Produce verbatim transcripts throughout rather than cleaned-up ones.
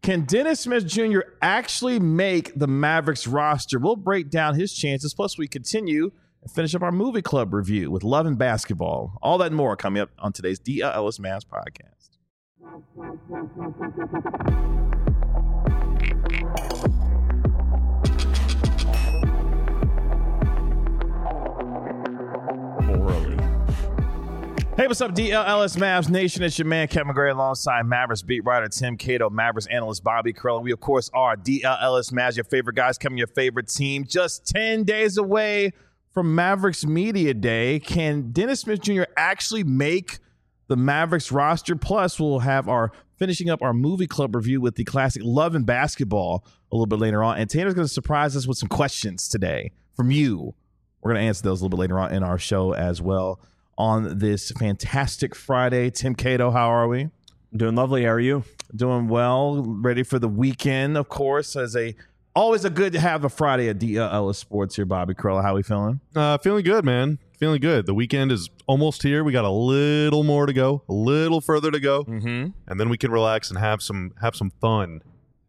Can Dennis Smith Junior actually make the Mavericks roster? We'll break down his chances. Plus, we continue and finish up our movie club review with Love and Basketball. All that and more coming up on today's D L Ellis Mavs podcast. Morally. Hey, what's up, D L Ellis Mavs Nation? It's your man, Kevin McGray, alongside Mavericks beat writer Tim Cato, Mavericks analyst Bobby Curl. We, of course, are D L Ellis Mavs, your favorite guys, coming your favorite team. Just ten days away from Mavericks Media Day. Can Dennis Smith Junior actually make the Mavericks roster? Plus, we'll have our finishing up our movie club review with the classic Love and Basketball a little bit later on. And Tanner's going to surprise us with some questions today from you. We're going to answer those a little bit later on in our show as well. On this fantastic Friday. Tim Cato, how are we? Doing lovely. How are you? Doing well. Ready for the weekend, of course. As a always a good to have a Friday at D L Ellis Sports here. Bobby Curl, how we feeling? Uh, feeling good, man. Feeling good. The weekend is almost here. We got a little more to go, a little further to go, Mm-hmm. and then we can relax and have some have some fun.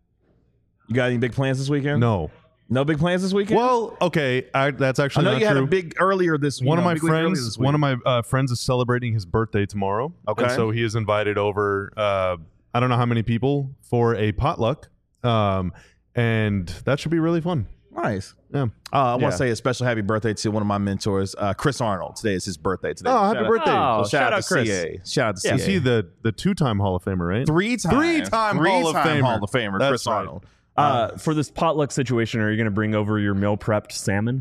You got any big plans this weekend? No. No big plans this weekend? Well, okay, I, that's I actually know not you true. had a big earlier this week. One of my big week earlier friends, this week. one of my uh, friends is celebrating his birthday tomorrow. Okay. And so he is invited over. Uh, I don't know how many people for a potluck, um, and that should be really fun. Nice. Yeah. Uh, I want Yeah. to say a special happy birthday to one of my mentors, uh, Chris Arnold. Today is his birthday. Today. Oh, happy Shout out- birthday! Oh, So shout, shout out out to Chris. C A. Shout out to Yeah. C A. Is he the the two time Hall of Famer, right? Three time, Three-time Hall of Three-time Famer. Hall of Famer, That's Chris right. Arnold. Uh, for this potluck situation, are you going to bring over your meal prepped salmon?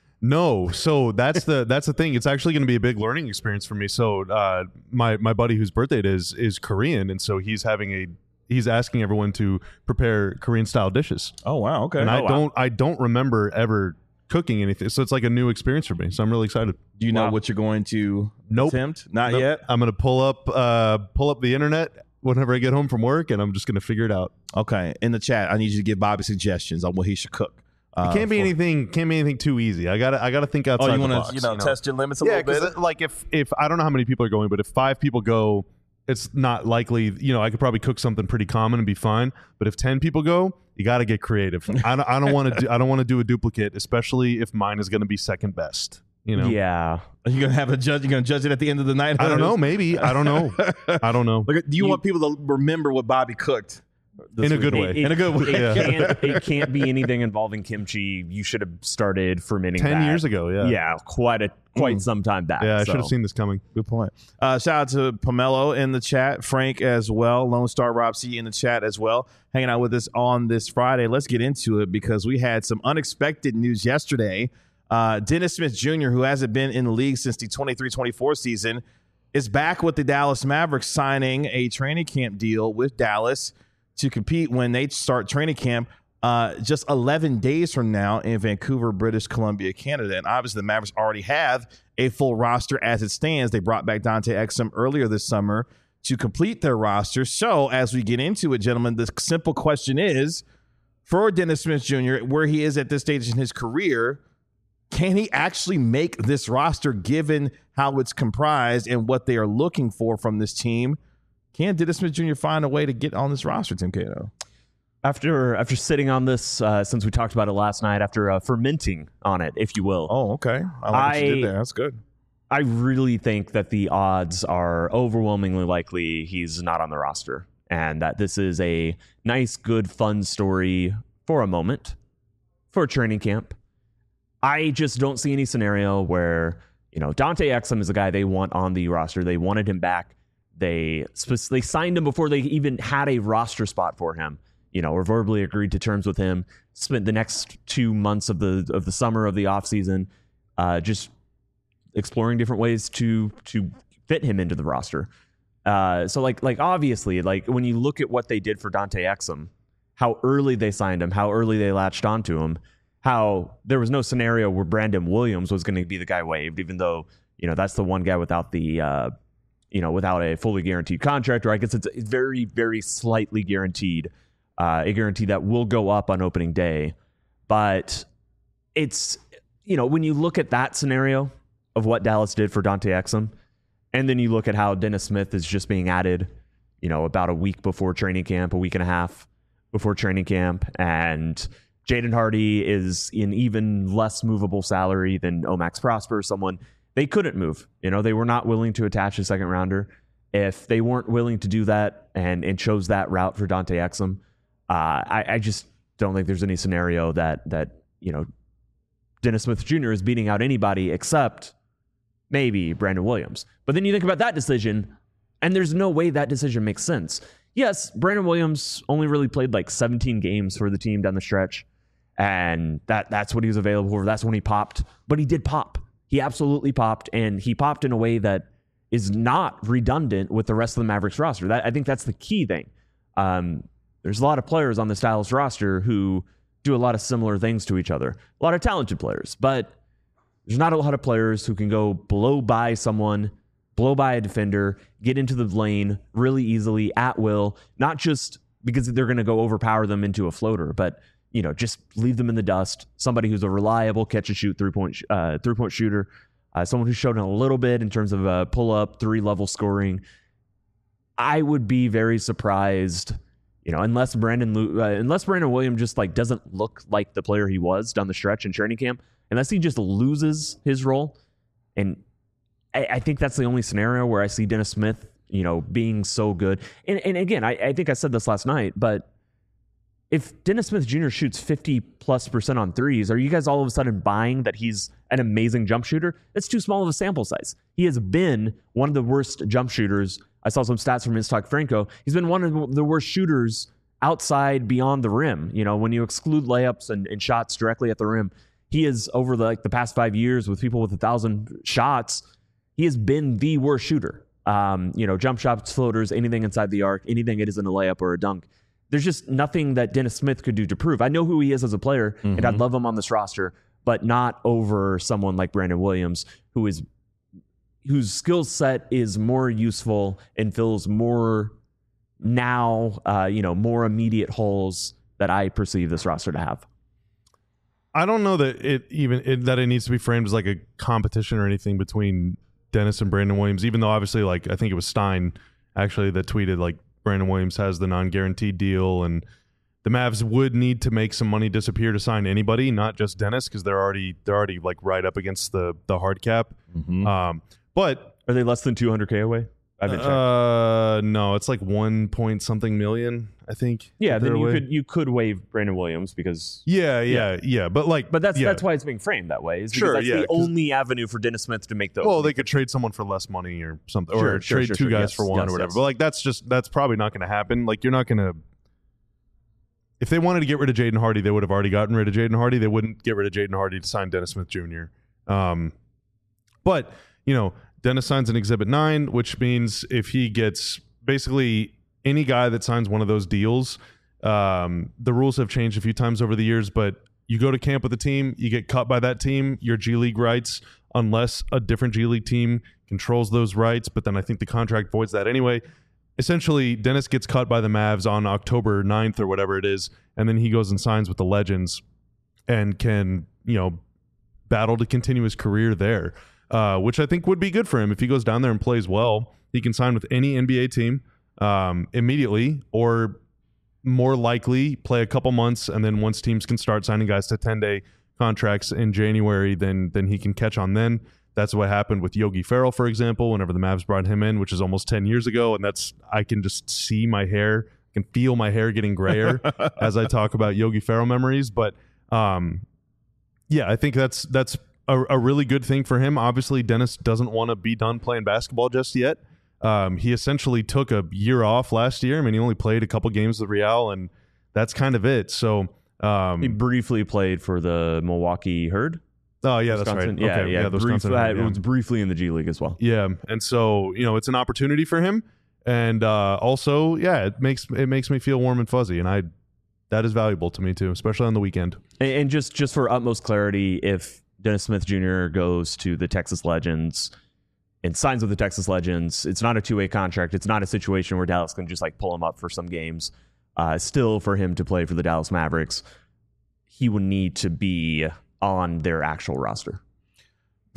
No, so that's the that's the thing. It's actually going to be a big learning experience for me. So uh, my my buddy whose birthday it is is Korean, and so he's having a he's asking everyone to prepare Korean style dishes. Oh wow, okay. And Oh, I wow. don't I don't remember ever cooking anything, so it's like a new experience for me. So I'm really excited. Do you know Wow. what you're going to Nope. attempt? Not Nope. yet. I'm going to pull up uh, pull up the internet whenever I get home from work, and I'm just going to figure it out. Okay. In the chat, I need you to give Bobby suggestions on what he should cook. Uh, It can't be for- anything. Can't be anything too easy. I gotta. I gotta think outside Oh, you the want box. to, you know, test your limits a yeah, little bit. because like if if I don't know how many people are going, but if five people go, it's not likely. You know, I could probably cook something pretty common and be fine. But if ten people go, you got to get creative. I don't. I don't want to. do I don't want to do a duplicate, especially if mine is going to be second best. You know. Yeah. Are you gonna have a judge? You're gonna judge it at the end of the night? I don't know. Maybe. I don't know. I don't know. Look, do you, You- want people to remember what Bobby cooked? this In a week? good way. It, In a good way. It, Yeah. can't, it can't be anything involving kimchi. You should have started fermenting Ten that. years ago. Yeah. Yeah, quite a quite Mm. some time back. Yeah. I so. should have seen this coming. Good point. Uh, shout out to Pomelo in the chat, Frank as well, Lone Star Rob C in the chat as well, hanging out with us on this Friday. Let's get into it because we had some unexpected news yesterday. Uh, Dennis Smith Junior, who hasn't been in the league since the twenty-three twenty-four season, is back with the Dallas Mavericks, signing a training camp deal with Dallas to compete when they start training camp uh, just eleven days from now in Vancouver, British Columbia, Canada. And obviously the Mavericks already have a full roster as it stands. They brought back Dante Exum earlier this summer to complete their roster. So as we get into it, gentlemen, the simple question is, for Dennis Smith Junior, where he is at this stage in his career, can he actually make this roster given how it's comprised and what they are looking for from this team? Can Dennis Smith Junior find a way to get on this roster, Tim Cato? After after sitting on this, uh, since we talked about it last night, after uh, fermenting on it, if you will, Oh, okay. I like what you I- did there. That's good. I really think that the odds are overwhelmingly likely he's not on the roster, and that this is a nice, good, fun story for a moment for training camp. I just don't see any scenario where, you know, Dante Exum is the guy they want on the roster. They wanted him back. They spe- they signed him before they even had a roster spot for him. You know, or verbally agreed to terms with him. Spent the next two months of the of the summer of the offseason uh, just exploring different ways to to fit him into the roster. Uh, so like like obviously, like when you look at what they did for Dante Exum, how early they signed him, how early they latched onto him, how there was no scenario where Brandon Williams was going to be the guy waived, even though, you know, that's the one guy without the uh, you know, without a fully guaranteed contract, or I guess it's very, very slightly guaranteed, uh, a guarantee that will go up on opening day. But it's, you know, when you look at that scenario of what Dallas did for Dante Exum, and then you look at how Dennis Smith is just being added, you know, about a week before training camp, a week and a half before training camp, and Jaden Hardy is in even less movable salary than Omax Prosper, someone they couldn't move. You know, they were not willing to attach a second rounder. If they weren't willing to do that and, and chose that route for Dante Exum, uh, I, I just don't think there's any scenario that, that, you know, Dennis Smith Junior is beating out anybody except maybe Brandon Williams. But then you think about that decision, and there's no way that decision makes sense. Yes, Brandon Williams only really played like seventeen games for the team down the stretch, and that that's what he was available for. That's when he popped. But he did pop. He absolutely popped, and he popped in a way that is not redundant with the rest of the Mavericks roster. That, I think that's the key thing. Um, there's a lot of players on this Dallas roster who do a lot of similar things to each other. A lot of talented players, but there's not a lot of players who can go blow by someone, blow by a defender, get into the lane really easily at will, not just because they're going to go overpower them into a floater, but you know, just leave them in the dust. Somebody who's a reliable catch and shoot three point uh, three point shooter, uh, someone who's shown a little bit in terms of uh, pull up, three level scoring. I would be very surprised, you know, unless Brandon uh, unless Brandon Williams just like doesn't look like the player he was down the stretch in training camp, unless he just loses his role. And I, I think that's the only scenario where I see Dennis Smith, you know, being so good. And, and again, I, I think I said this last night, but if Dennis Smith Junior shoots fifty plus percent on threes, are you guys all of a sudden buying that he's an amazing jump shooter? That's too small of a sample size. He has been one of the worst jump shooters. I saw some stats from Istok Franco. He's been one of the worst shooters outside beyond the rim. You know, when you exclude layups and, and shots directly at the rim, he is over the, like the past five years with people with a thousand shots. He has been the worst shooter. Um, you know, jump shots, floaters, anything inside the arc, anything it isn't a layup or a dunk. There's just nothing that Dennis Smith could do to prove. I know who he is as a player, mm-hmm. and I'd love him on this roster, but not over someone like Brandon Williams, who is whose skill set is more useful and fills more now, uh, you know, more immediate holes that I perceive this roster to have. I don't know that it even it, that it needs to be framed as like a competition or anything between Dennis and Brandon Williams, even though obviously, like, I think it was Stein actually that tweeted like Brandon Williams has the non-guaranteed deal, and the Mavs would need to make some money disappear to sign anybody, not just Dennis, because they're already they're already like right up against the the hard cap. Mm-hmm. Um, but are they less than two hundred K away? I've been uh, no, it's like one point something million, I think. Yeah, then you away. could you could waive Brandon Williams because yeah, yeah, yeah, yeah. But like, but that's yeah. that's why it's being framed that way. Is because sure, that's yeah, the only avenue for Dennis Smith to make those. Well, they could trade someone for less money or something, sure, or sure, trade sure, two sure, guys yes, for one yes, or whatever. yes. But like, that's just that's probably not going to happen. Like, you're not going to. If they wanted to get rid of Jaden Hardy, they would have already gotten rid of Jaden Hardy. They wouldn't get rid of Jaden Hardy to sign Dennis Smith Junior Um, but you know, Dennis signs an Exhibit nine, which means if he gets basically any guy that signs one of those deals, um, the rules have changed a few times over the years, but you go to camp with a team, you get cut by that team, your G League rights, unless a different G League team controls those rights, but then I think the contract voids that anyway. Essentially, Dennis gets cut by the Mavs on October ninth or whatever it is, and then he goes and signs with the Legends and can, you know, battle to continue his career there, uh, which I think would be good for him if he goes down there and plays well. He can sign with any N B A team um, immediately, or more likely play a couple months, and then once teams can start signing guys to ten-day contracts in January, then then he can catch on then. That's what happened with Yogi Ferrell, for example, whenever the Mavs brought him in, which is almost ten years ago, and that's I can just see my hair, I can feel my hair getting grayer as I talk about Yogi Ferrell memories. But um, yeah, I think that's that's a, a really good thing for him. Obviously, Dennis doesn't want to be done playing basketball just yet. Um, he essentially took a year off last year. I mean, he only played a couple games with Real, and that's kind of it. So um, he briefly played for the Milwaukee Herd. Oh yeah, Wisconsin. that's right. Yeah, okay. yeah. yeah Brief, Wisconsin, uh, yeah. It was briefly in the G League as well. Yeah, and so you know, it's an opportunity for him, and uh, also, yeah, it makes it makes me feel warm and fuzzy, and I that is valuable to me too, especially on the weekend. And, and just just for utmost clarity, if Dennis Smith Junior goes to the Texas Legends and signs with the Texas Legends, it's not a two-way contract. It's not a situation where Dallas can just like pull him up for some games. Uh, still, for him to play for the Dallas Mavericks, he would need to be on their actual roster.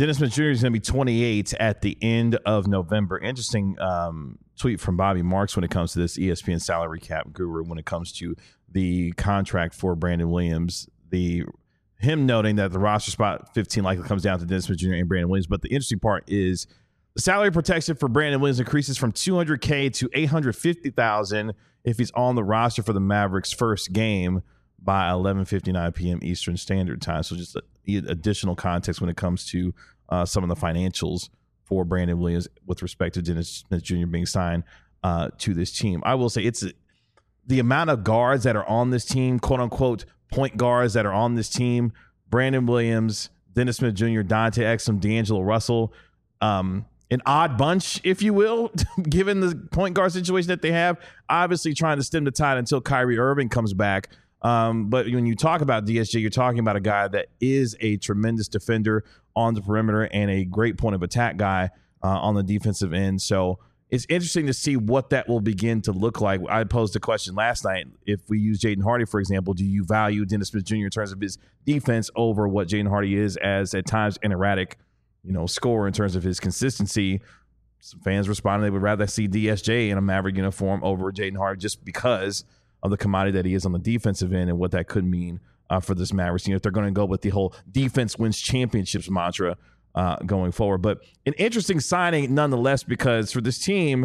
Dennis Smith Junior is going to be twenty-eight at the end of November. Interesting um, tweet from Bobby Marks when it comes to this E S P N salary cap guru when it comes to the contract for Brandon Williams. The him noting that the roster spot fifteen likely comes down to Dennis Smith Junior and Brandon Williams. But the interesting part is the salary protection for Brandon Williams increases from two hundred K to eight hundred fifty thousand dollars if he's on the roster for the Mavericks' first game by eleven fifty-nine p.m. Eastern Standard Time. So just a, additional context when it comes to uh, some of the financials for Brandon Williams with respect to Dennis Smith Junior being signed uh, to this team. I will say it's a, the amount of guards that are on this team, quote unquote, point guards that are on this team, Brandon Williams, Dennis Smith Junior, Dante Exum, D'Angelo Russell, um, an odd bunch, if you will, given the point guard situation that they have, obviously trying to stem the tide until Kyrie Irving comes back. Um, but when you talk about D S J, you're talking about a guy that is a tremendous defender on the perimeter and a great point of attack guy uh, on the defensive end. So it's interesting to see what that will begin to look like. I posed a question last night. If we use Jaden Hardy, for example, do you value Dennis Smith Junior in terms of his defense over what Jaden Hardy is as at times an erratic, you know, scorer in terms of his consistency? Some fans responded they would rather see D S J in a Maverick uniform over Jaden Hardy just because of the commodity that he is on the defensive end and what that could mean uh, for this Mavericks team if they're going to go with the whole defense wins championships mantra uh, going forward. But an interesting signing nonetheless, because for this team,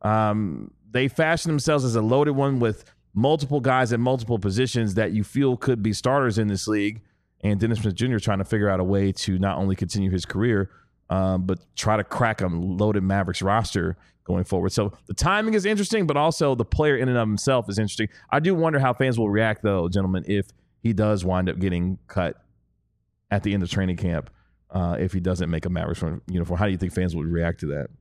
um, they fashioned themselves as a loaded one with multiple guys at multiple positions that you feel could be starters in this league. And Dennis Smith Junior trying to figure out a way to not only continue his career, um, but try to crack a loaded Mavericks roster going forward. So the timing is interesting, but also the player in and of himself is interesting. I do wonder how fans will react, though, gentlemen, if he does wind up getting cut at the end of training camp, uh, if he doesn't make a Mavericks uniform. How do you think fans would react to that?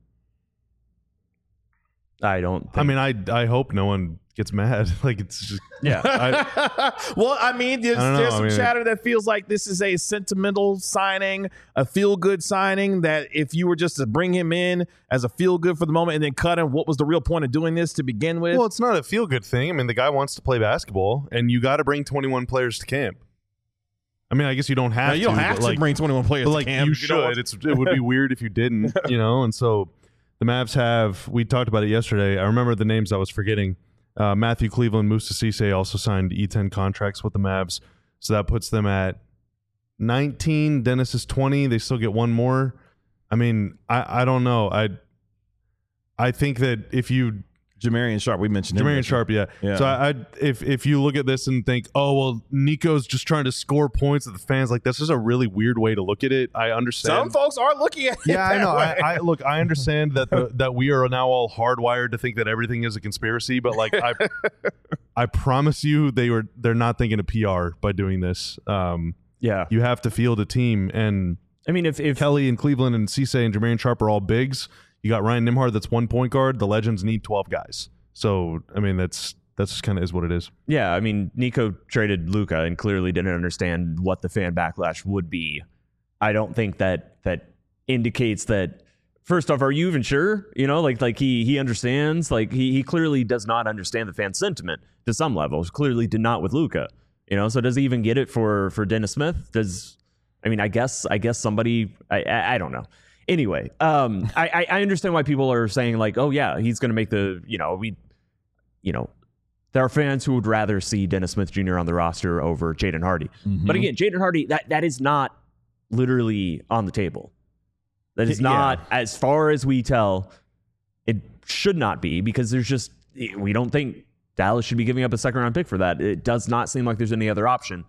I don't think. I mean, I I hope no one gets mad. Like, it's just yeah. I, well, I mean, there's, I there's I some mean, chatter that feels like this is a sentimental signing, a feel-good signing, that if you were just to bring him in as a feel-good for the moment and then cut him, what was the real point of doing this to begin with? well, it's not a feel-good thing. I mean, the guy wants to play basketball, and you got to bring twenty-one players to camp. I mean, I guess you don't have no, you to. don't have but to like, bring twenty-one players but to like camp. you if don't want should. It's it would be weird if you didn't, you know. And so the Mavs have. We talked about it yesterday. I remember the names I was forgetting. Uh, Matthew Cleveland, Moussa Cisse also signed E ten contracts with the Mavs, so that puts them at nineteen. Dennis is twenty. They still get one more. I mean, I, I don't know. I I think that if you Jamarian Sharp, we mentioned him. Jamarian Sharp, yeah. Yeah. So I, I if if you look at this and think, oh well, Nico's just trying to score points at the fans, like this is a really weird way to look at it. I understand. Some folks are looking at it. Yeah, I that know. way. I, I look. I understand that the, that we are now all hardwired to think that everything is a conspiracy, but like I, I promise you, they were they're not thinking of P R by doing this. Um, Yeah. you have to field a team, and I mean, if, if Kelly and Cleveland and Cisse and Jermaine Sharp are all bigs. You got Ryan Nimhard, that's one point guard. The Legends need twelve guys. So I mean, that's that's just kind of is what it is. yeah, I mean, Nico traded Luka and clearly didn't understand what the fan backlash would be. I don't think that that indicates that. First off, are you even sure? You know, like like he he understands. Like he he clearly does not understand the fan sentiment to some levels. Clearly did not with Luka. You know, so does he even get it for for Dennis Smith? Does I mean, I guess I guess somebody I I, I don't know. Anyway, um, I, I understand why people are saying like, oh yeah, he's going to make the, you know, we, you know, there are fans who would rather see Dennis Smith Junior on the roster over Jaden Hardy. Mm-hmm. But again, Jaden Hardy, that that is not literally on the table. That is not, Yeah. as far as we tell, it should not be, because there's just, we don't think Dallas should be giving up a second round pick for that. It does not seem like there's any other option.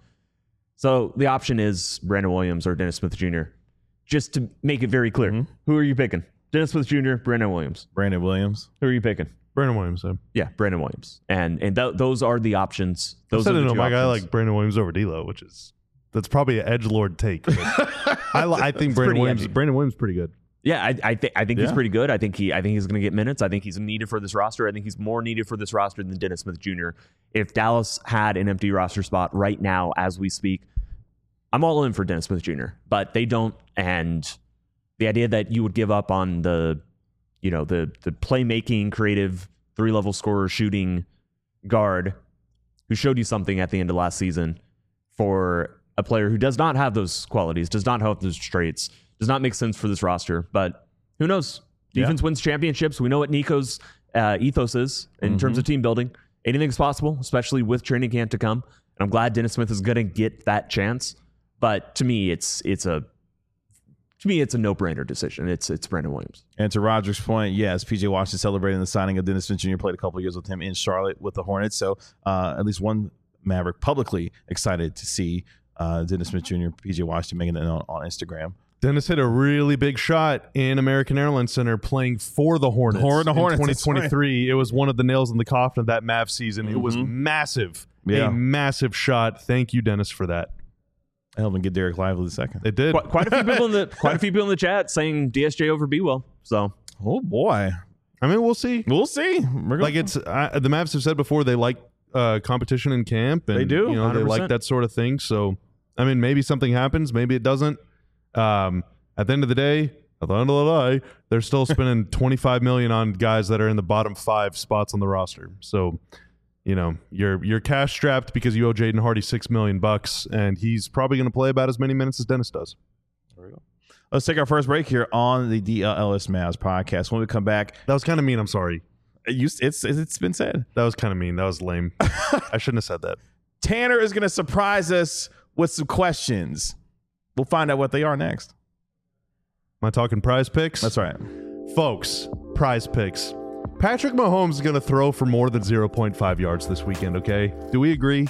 So the option is Brandon Williams or Dennis Smith Junior Just to make it very clear, Mm-hmm. who are you picking? Dennis Smith Junior, Brandon Williams. Brandon Williams. Who are you picking? Brandon Williams. So. Yeah, Brandon Williams. And and th- those are the options. Those I are don't the know. two My guy options. like Brandon Williams over D'Lo, which is that's probably an edgelord take. but I, li- I think It's Brandon pretty Williams. edgy. Brandon Williams is pretty good. Yeah, I I, th- I think he's Yeah. pretty good. I think he I think he's going to get minutes. I think he's needed for this roster. I think he's more needed for this roster than Dennis Smith Junior If Dallas had an empty roster spot right now as we speak, I'm all in for Dennis Smith Junior But they don't, and the idea that you would give up on the, you know, the the playmaking, creative, three level scorer, shooting guard who showed you something at the end of last season for a player who does not have those qualities, does not have those traits, does not make sense for this roster. But who knows? Defense Yeah. wins championships. We know what Nico's uh, ethos is in Mm-hmm. terms of team building. Anything's possible, especially with training camp to come. And I'm glad Dennis Smith is going to get that chance. But to me, it's it's a to me it's a no-brainer decision. It's it's Brandon Williams. And to Roger's point, yes, P J Washington celebrating the signing of Dennis Smith Junior Played a couple of years with him in Charlotte with the Hornets. So uh, at least one Maverick publicly excited to see uh, Dennis Smith Junior, P J Washington making it on, on Instagram. Dennis hit a really big shot in American Airlines Center playing for the Hornets. Hor- the Hornets, in that's twenty twenty-three. It was one of the nails in the coffin of that Mav season. It was massive. Yeah. A massive shot. Thank you, Dennis, for that. I helped him get Derek Lively the second. It did. Quite, quite a few people in the quite a few people in the chat saying D S J over B well. So Oh, boy. I mean, we'll see. We'll see. We're gonna, Like it's uh, the Mavs have said before they like uh, competition in camp. And, They do, You know, one hundred they like percent. that sort of thing. So, I mean, maybe something happens. Maybe it doesn't. Um, at the end of the day, at the end of the day, they're still spending twenty-five million dollars on guys that are in the bottom five spots on the roster. So, you know, you're you're cash strapped because you owe Jaden Hardy six million bucks, and he's probably going to play about as many minutes as Dennis does. There we go. Let's take our first break here on the D L L S Mavs podcast. When we come back, That was kind of mean. I'm sorry. you, it's it's been said. That was kind of mean. That was lame. I shouldn't have said that. Tanner is going to surprise us with some questions. We'll find out what they are next. Am I talking prize picks? That's right. Folks, prize picks. Patrick Mahomes is going to throw for more than zero point five yards this weekend, okay? Do we agree?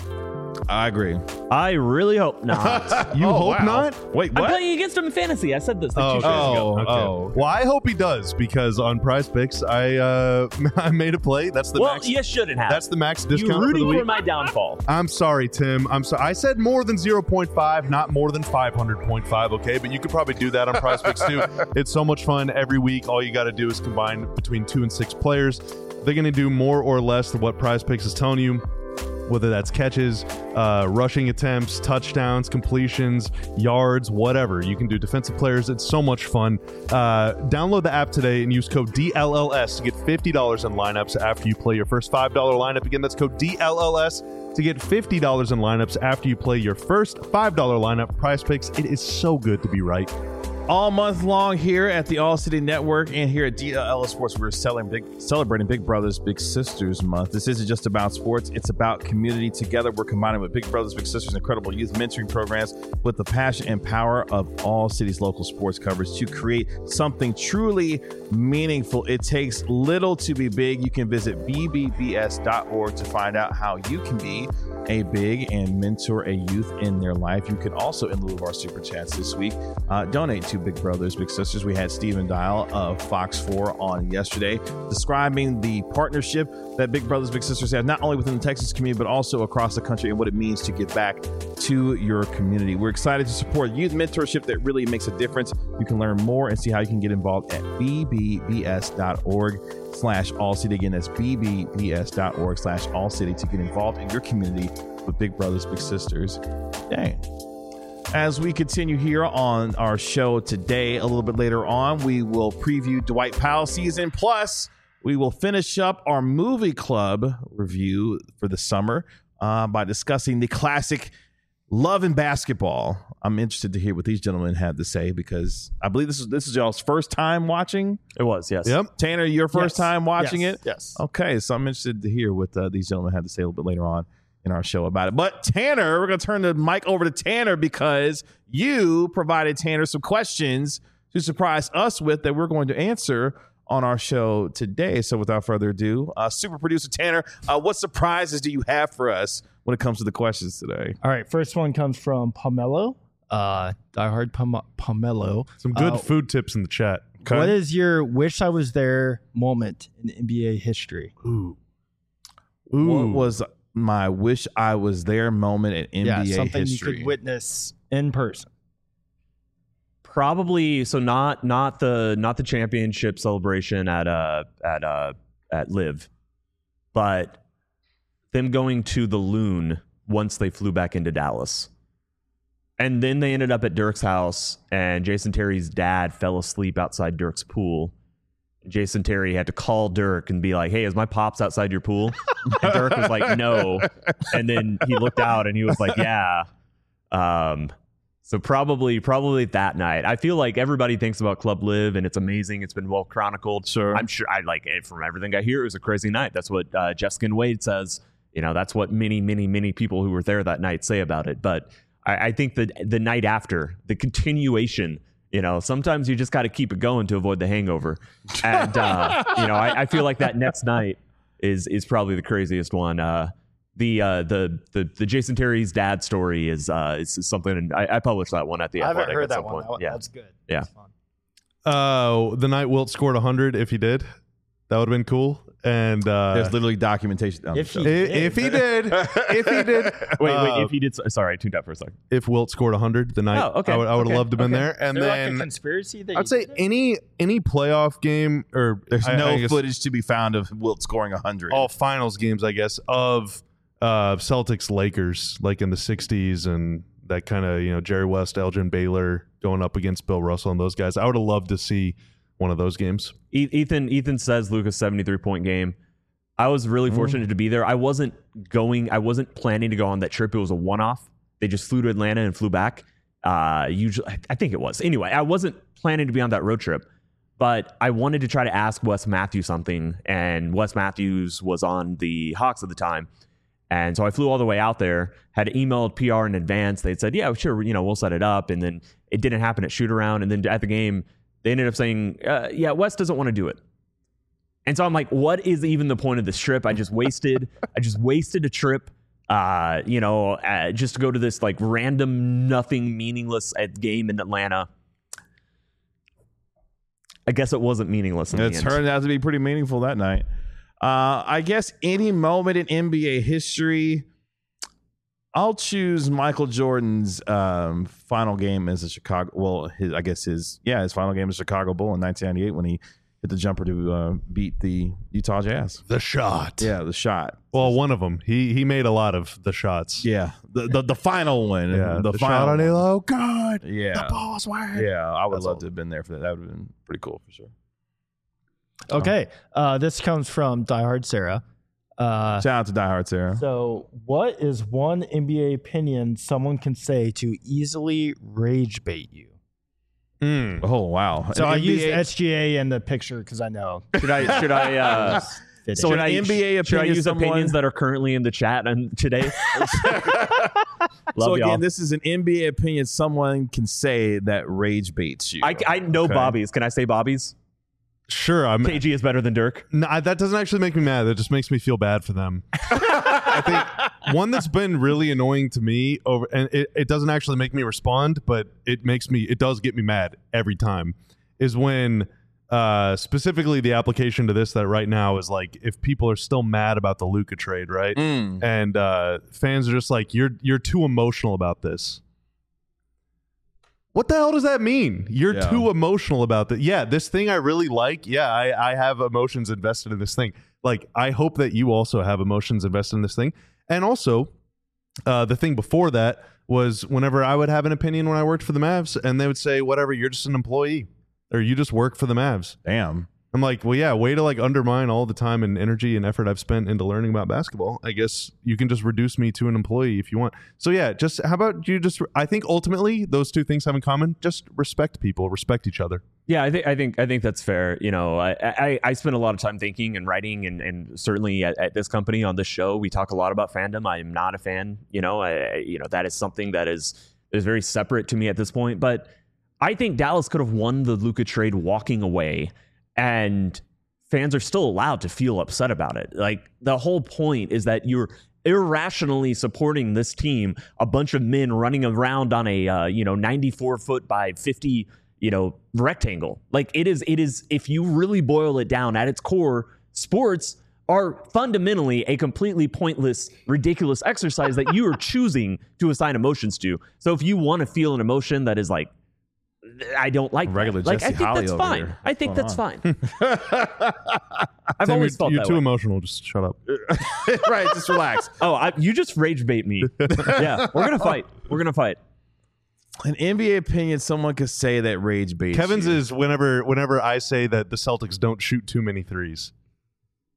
I agree. I really hope not. You Oh, hope wow. not? Wait, I'm what? playing against him in fantasy. I said this like Oh, two shows ago. oh, Okay. oh. Well, I hope he does because on prize picks, I uh, I made a play. That's the Well, max. you shouldn't have. That's the max you discount for the rooting week. for my downfall. I'm sorry, Tim. I'm sorry. I said more than zero point five, not more than five hundred point five, okay? But you could probably do that on prize picks too. It's so much fun every week. All you got to do is combine between two and six players. They're going to do more or less than what prize picks is telling you. Whether that's catches, uh, rushing attempts, touchdowns, completions, yards, whatever. You can do defensive players. It's so much fun. Uh, download the app today and use code D L L S to get fifty dollars in lineups after you play your first five dollar lineup. Again, that's code D L L S to get fifty dollars in lineups after you play your first five dollar lineup. Prize Picks, it is so good to be right. All month long here at the All City Network and here at D L L Sports, we're selling big, celebrating Big Brothers Big Sisters Month. This isn't just about sports, it's about community. Together, we're combining with Big Brothers Big Sisters incredible youth mentoring programs with the passion and power of All City's local sports coverage to create something truly meaningful. It takes little to be big. You can visit b b b s dot org to find out how you can be a big and mentor a youth in their life. You can also, in lieu of our super chats this week, uh, donate to Big Brothers Big Sisters. We had Stephen Dial of Fox four on yesterday describing the partnership that Big Brothers Big Sisters have, not only within the Texas community, but also across the country, and what it means to give back to your community. We're excited to support youth mentorship that really makes a difference. You can learn more and see how you can get involved at b b b s dot org slash all city. Again, that's b b b s dot org slash all city to get involved in your community with Big Brothers Big Sisters. Dang. As we continue here on our show today, a little bit later on, we will preview Dwight Powell season. Plus, we will finish up our movie club review for the summer uh, by discussing the classic Love and Basketball. I'm interested to hear what these gentlemen had to say because I believe this is this is y'all's first time watching. It was, yes. Yep. Tanner, your first Yes. time watching Yes. it? Yes. Okay, so I'm interested to hear what uh, these gentlemen had to say a little bit later on in our show about it. But Tanner, we're going to turn the mic over to Tanner because you provided Tanner some questions to surprise us with that we're going to answer on our show today. So without further ado, uh, super producer Tanner, uh, what surprises do you have for us when it comes to the questions today? All right. First one comes from Pomelo. Uh, diehard Pom- Pomelo. Some good Uh, food tips in the chat. Okay. What is your wish I was there moment in N B A history? Ooh. What was my wish I was there moment in N B A yeah, something history? you could witness in person. Probably so not not the not the championship celebration at uh at uh at Live, but them going to the Loon once they flew back into Dallas. And then they ended up at Dirk's house, and Jason Terry's dad fell asleep outside Dirk's pool. Jason Terry had to call Dirk and be like, "Hey, is my pops outside your pool?" And Dirk was like, "No." And then he looked out and he was like, "Yeah." Um, So probably probably that night. I feel like everybody thinks about Club Live and it's amazing. It's been well chronicled. Sure. I'm sure I like it from everything I hear. It was a crazy night. That's what uh, Jeff Skin Wade says. You know, that's what many, many, many people who were there that night say about it. But I, I think that the night after, the continuation, you know, sometimes you just got to keep it going to avoid the hangover. And, uh, you know, I, I feel like that next night is is probably the craziest one. Uh, the, uh, the the the Jason Terry's dad story is uh, is, is something, and I, I published that one at the I haven't Athletic heard at that some one. point. That, yeah. That's good. Yeah. That's fun. Uh, the night Wilt scored one hundred, if he did, that would have been cool. And uh, There's literally documentation. On If the he- show. if, if he did, if he did, Wait, uh, wait. If he did, sorry, I tuned out for a second. if Wilt scored one hundred the night, Oh, okay, I would, I would okay, have loved to have been okay. there. And Is there then like a conspiracy that I'd you say did it? any any playoff game or There's I- no I guess footage to be found of Wilt scoring one hundred. all finals games, I guess, of uh, Celtics Lakers, like in the sixties, and that kind of, you know, Jerry West, Elgin Baylor going up against Bill Russell and those guys. I would have loved to see one of those games. E- Ethan Ethan says Luka's seventy-three point game. I was really fortunate to be there. I wasn't going. I wasn't planning to go on that trip. It was a one-off. They just flew to Atlanta and flew back. Uh, usually, I think it was. Anyway, I wasn't planning to be on that road trip, but I wanted to try to ask Wes Matthews something, and Wes Matthews was on the Hawks at the time, and so I flew all the way out there. Had emailed P R in advance. They said, "Yeah, sure, you know, we'll set it up," and then it didn't happen at shoot around, and then at the game, they ended up saying, uh, "Yeah, Wes doesn't want to do it." And so I'm like, what is even the point of this trip? I just wasted, I just wasted a trip, uh, you know, uh, just to go to this like random, nothing meaningless uh, game in Atlanta. I guess it wasn't meaningless in It the end. turned out to be pretty meaningful that night. Uh, I guess any moment in N B A history, I'll choose Michael Jordan's um, final game as a Chicago. Well, his I guess his yeah his final game as Chicago Bull in nineteen ninety-eight when he hit the jumper to uh, beat the Utah Jazz. The shot. Yeah, the shot. Well, one of them. He he made a lot of the shots. Yeah, the the, the final one. Yeah, the, the, final shot on one. Elo. God. Yeah, The ball was wide. yeah. I would That's love all. to have been there for that. That would have been pretty cool for sure. Okay. Uh, this comes from Diehard Sarah. Uh, Shout out to Die Hard Sarah. so, what is one N B A opinion someone can say to easily rage bait you? Mm. Oh wow! So An I N B A use S G A in the picture because I know. Should I? Should I? Uh, Fit So it. an should I, N B A should I opinion use someone- opinions that are currently in the chat and today? Love so again, y'all. this is an N B A opinion someone can say that rage baits you. I, I know Okay. Bobby's. Can I say Bobby's? Sure. I'm. K G is better than Dirk. No, I- that doesn't actually make me mad. That just makes me feel bad for them. I think one that's been really annoying to me over, and it, it doesn't actually make me respond, but it makes me, it does get me mad every time, is when uh, specifically the application to this that right now is like if people are still mad about the Luka trade, right? Mm. And uh, fans are just like, you're you're too emotional about this. What the hell does that mean? You're Yeah. too emotional about that. Yeah, this thing I really like. Yeah, I, I have emotions invested in this thing. Like, I hope that you also have emotions invested in this thing. And also, uh, the thing before that was whenever I would have an opinion when I worked for the Mavs, and they would say, whatever, you're just an employee, or you just work for the Mavs. Damn. I'm like, well, yeah, way to like undermine all the time and energy and effort I've spent into learning about basketball. I guess you can just reduce me to an employee if you want. So yeah, just how about you just, I think ultimately those two things have in common. Just respect people, respect each other. Yeah, I think I think I think that's fair. You know, I I, I spend a lot of time thinking and writing, and, and certainly at, at this company on this show, we talk a lot about fandom. I am not a fan. You know, I, you know that is something that is is very separate to me at this point. But I think Dallas could have won the Luka trade walking away, and fans are still allowed to feel upset about it. Like the whole point is that you're irrationally supporting this team, a bunch of men running around on a uh, you know ninety-four foot by fifty you know rectangle. Like it is it is if you really boil it down at its core, sports are fundamentally a completely pointless, ridiculous exercise that you are choosing to assign emotions to. So if you want to feel an emotion that is like, I don't like Regular that. Like Jesse I think Holly that's over fine. here. I think What's that's going fine. I've Tim, always you're, felt you're that too way. emotional. Just shut up. Right, just relax. Oh, I, you just rage bait me. Yeah, we're gonna fight. We're gonna fight. An N B A opinion someone could say that rage baits Kevin's you. is whenever whenever I say that the Celtics don't shoot too many threes.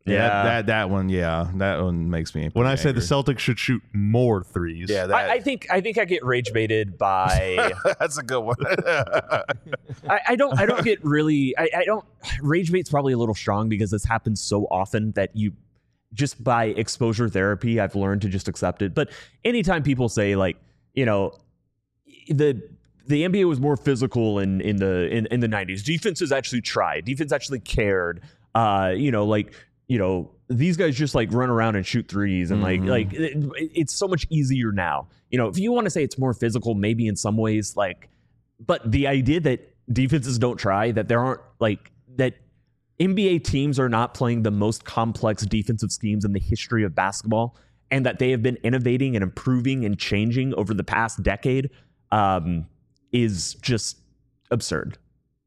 Yeah, Yeah. That, that that one, yeah, that one makes me. When I pretty say the angry. Celtics should shoot more threes. yeah, that, I, I think I think I get rage baited by. that's a good one. I, I don't I don't get really I, I don't rage bait's probably a little strong because this happens so often that you just by exposure therapy I've learned to just accept it. But anytime people say like, you know, the the N B A was more physical in in the in, in the nineties. Defenses actually tried. Defense actually cared. Uh, you know, like, you know, these guys just like run around and shoot threes and like Mhm. like it, it's so much easier now. You know, if you want to say it's more physical, maybe in some ways, like, but the idea that defenses don't try, that there aren't like that N B A teams are not playing the most complex defensive schemes in the history of basketball, and that they have been innovating and improving and changing over the past decade, um, is just absurd.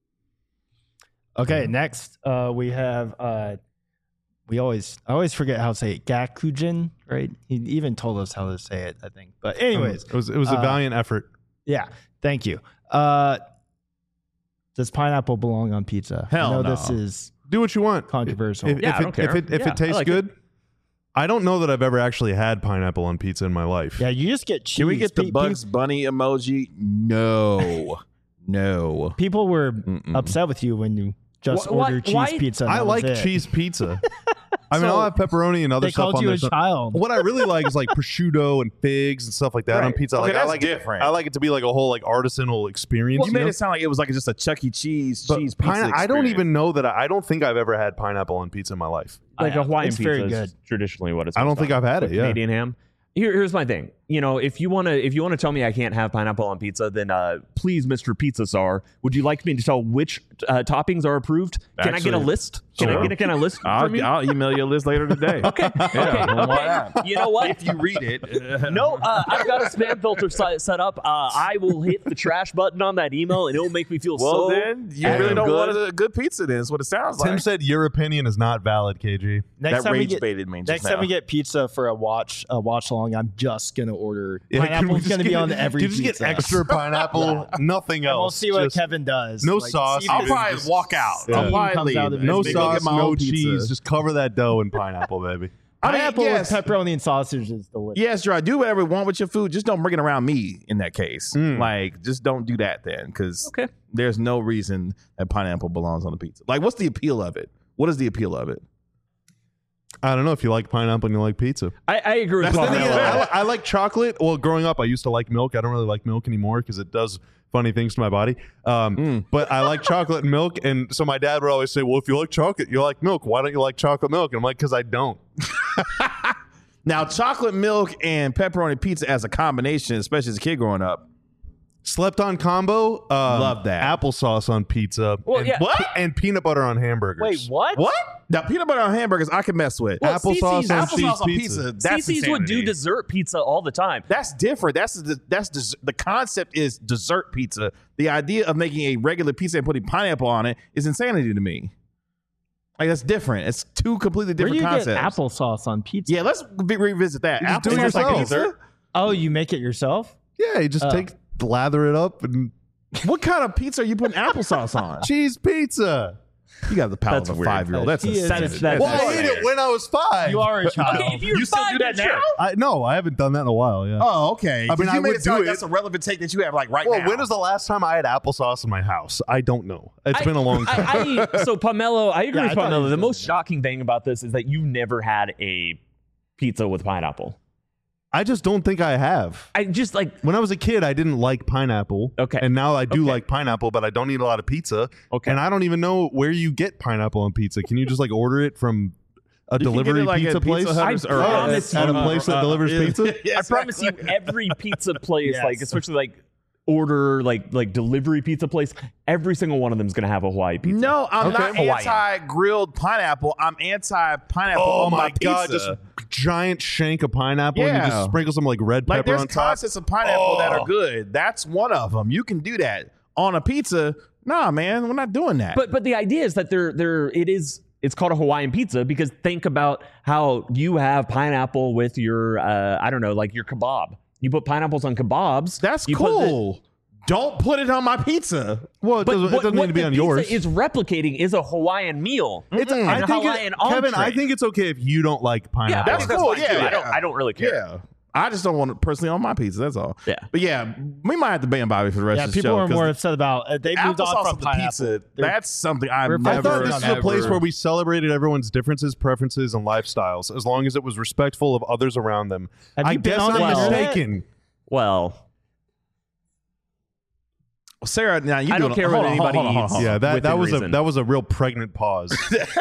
Okay, next uh, we have uh, we always I always forget how to say it. Gakujin, right? He even told us how to say it, I think. But anyways, it was it was a uh, valiant effort. yeah, thank you. Uh, does pineapple belong on pizza? Hell I know no. this is Do what you want. controversial. If, Yeah, if I it, don't care. if it if Yeah, it tastes I like good, I don't know that I've ever actually had pineapple on pizza in my life. Yeah, you just get cheese. Can we get the Pe- Bugs Bunny emoji? No, no. pe- People were Mm-mm. upset with you when you just Wh- why- ordered cheese why- pizza. and I that was like it. cheese pizza. I mean, So, I'll have pepperoni and other They stuff called on you there. a So- child. What I really like is like prosciutto and figs and stuff like that on Right. pizza. Okay, Like I that's like different. It, I like it to be like a whole like artisanal experience. You made know? it sound like it was like just a Chuck E. Cheese But cheese pizza. pine- I don't experience. even know that. I, I don't think I've ever had pineapple on pizza in my life. Like I- a Hawaiian it's pizza very is good. traditionally what it's. I don't based think on. I've had With it, yeah. Canadian ham. Here, here's my thing. You know, if you want to, if you want to tell me I can't have pineapple on pizza, then uh, please, Mister Pizza Czar, would you like me to tell which uh, toppings are approved? Can I get a Actually, list? Can I sure. get a, can I list from I'll, you? I'll email you a list later today. okay, Yeah, okay, well, why okay. not? You know what? If you read it, No, uh, I've got a spam filter si- set up. Uh, I will hit the trash button on that email, and it will make me feel well so. then you effing really don't good. want a good pizza. Then is what it sounds Tim like. said your opinion is not valid, K G. Next that time we rage get baited me. Just next time now. we get pizza for a watch a watch along, I'm just gonna order Yeah, can we pineapple's just gonna be get- on every can you just pizza. get extra pineapple, nothing And we'll else. see what Just Kevin does. no Like, sauce. see if I'll his probably Just- walk out. Yeah. I'll Steam probably comes leave. out of no Maybe Go get sauce, my no own pizza. cheese. Just cover that dough in pineapple, baby. I mean, Pineapple yes. with pepperoni and sausage is delicious. Yes, Drew. Do whatever you want with your food. Just don't bring it around me. In that case, Mm. like just don't do that then, because Okay. there's no reason that pineapple belongs on a pizza. Like, what's the appeal of it? What is the appeal of it? I don't know if you like pineapple and you like pizza. I, I agree with That's Paul. the Then thing again, Yeah. I, li- I like chocolate. Well, growing up, I used to like milk. I don't really like milk anymore because it does funny things to my body. Um, Mm. But I like chocolate and milk. And so my dad would always say, well, if you like chocolate, you like milk. Why don't you like chocolate milk? And I'm like, because I don't. Now, chocolate milk and pepperoni pizza as a combination, especially as a kid growing up. Slept on combo. Um, Love that. Applesauce on pizza. Well, and, yeah. What? And peanut butter on hamburgers. Wait, what? What? Now, peanut butter on hamburgers, I can mess with. Well, Applesauce Cece's- on Applesauce cheese on pizza. pizza. That's Cece's would do insanity. dessert pizza all the time. That's different. That's the that's des- the concept is dessert pizza. The idea of making a regular pizza and putting pineapple on it is insanity to me. Like that's different. It's two completely Where do different you get concepts. applesauce on pizza? Yeah, let's re- revisit that. You just do it Applesauce on yourself. pizza? Oh, you make it yourself? Yeah, you just Oh. take, lather it up and What kind of pizza are you putting applesauce on? cheese pizza. You got the palate That's of a weird. five year old. That's He is- insanity. that's- Well, I That's ate it when I was five. You are a child. Okay, if you're You still five, do that then now? sure. I, no, I haven't done that in a while. Yeah. Oh, okay. I mean, 'Cause I you made would it sound do like it. that's a relevant take that you have like right Well, now. when is the last time I had applesauce in my house? I don't know. It's I- been a long time. I, I, so Pomelo, I agree Yeah, I with thought he Pomelo. was The gonna most do that. shocking thing about this is that you've never had a pizza with pineapple. I just don't think I have. I just like When I was a kid, I didn't like pineapple. Okay. And now I do Okay. like pineapple, but I don't eat a lot of pizza. okay. And I don't even know where you get pineapple on pizza. Can you just like order it from a You can get delivery it, like, pizza at Pizza place? Hut I or- or promise at a you- place that delivers yeah. pizza? Yeah, I promise you, exactly. every pizza place, Yes. like especially like order like like delivery pizza place, every single one of them is gonna have a Hawaii pizza. No, I'm Okay. not Hawaiian. anti-grilled pineapple. I'm anti-pineapple Oh on my my pizza. god! Just giant shank of pineapple, and you Yeah. just sprinkle some like red like pepper there's on top. concepts of pineapple that Oh. are good. That's one of them. You can do that on a pizza. Nah, man, we're not doing that. But but the idea is that there there it is. It's called a Hawaiian pizza because think about how you have pineapple with your uh, I don't know, like your kebab. You put pineapples on kebabs. that's you put the- cool. Don't put it on my pizza. Well, it But doesn't, what, it doesn't what need to be the on pizza yours. is replicating is a Hawaiian meal. It's, and I a think Hawaiian it, Kevin, I entree. think it's okay if you don't like Yeah, pineapple. I That's think that's cool, fine, yeah, too. I yeah. don't. I don't really care. Yeah. I just don't want it personally on my pizza. That's all. Yeah. But yeah, we might have to ban Bobby for the rest Yeah, of the people show. are 'cause more upset about uh, they moved applesauce on from on the pineapple. pizza. They're- That's something I've we're never. I thought this was a ever- place where we celebrated everyone's differences, preferences, and lifestyles, as long as it was respectful of others around them. Have I you been guess on I'm the internet? mistaken. Well, Sarah, now you I don't doing- care hold what on, hold anybody on, hold on, eats. hold on. Yeah, that, that within was reason. a that was a real pregnant pause.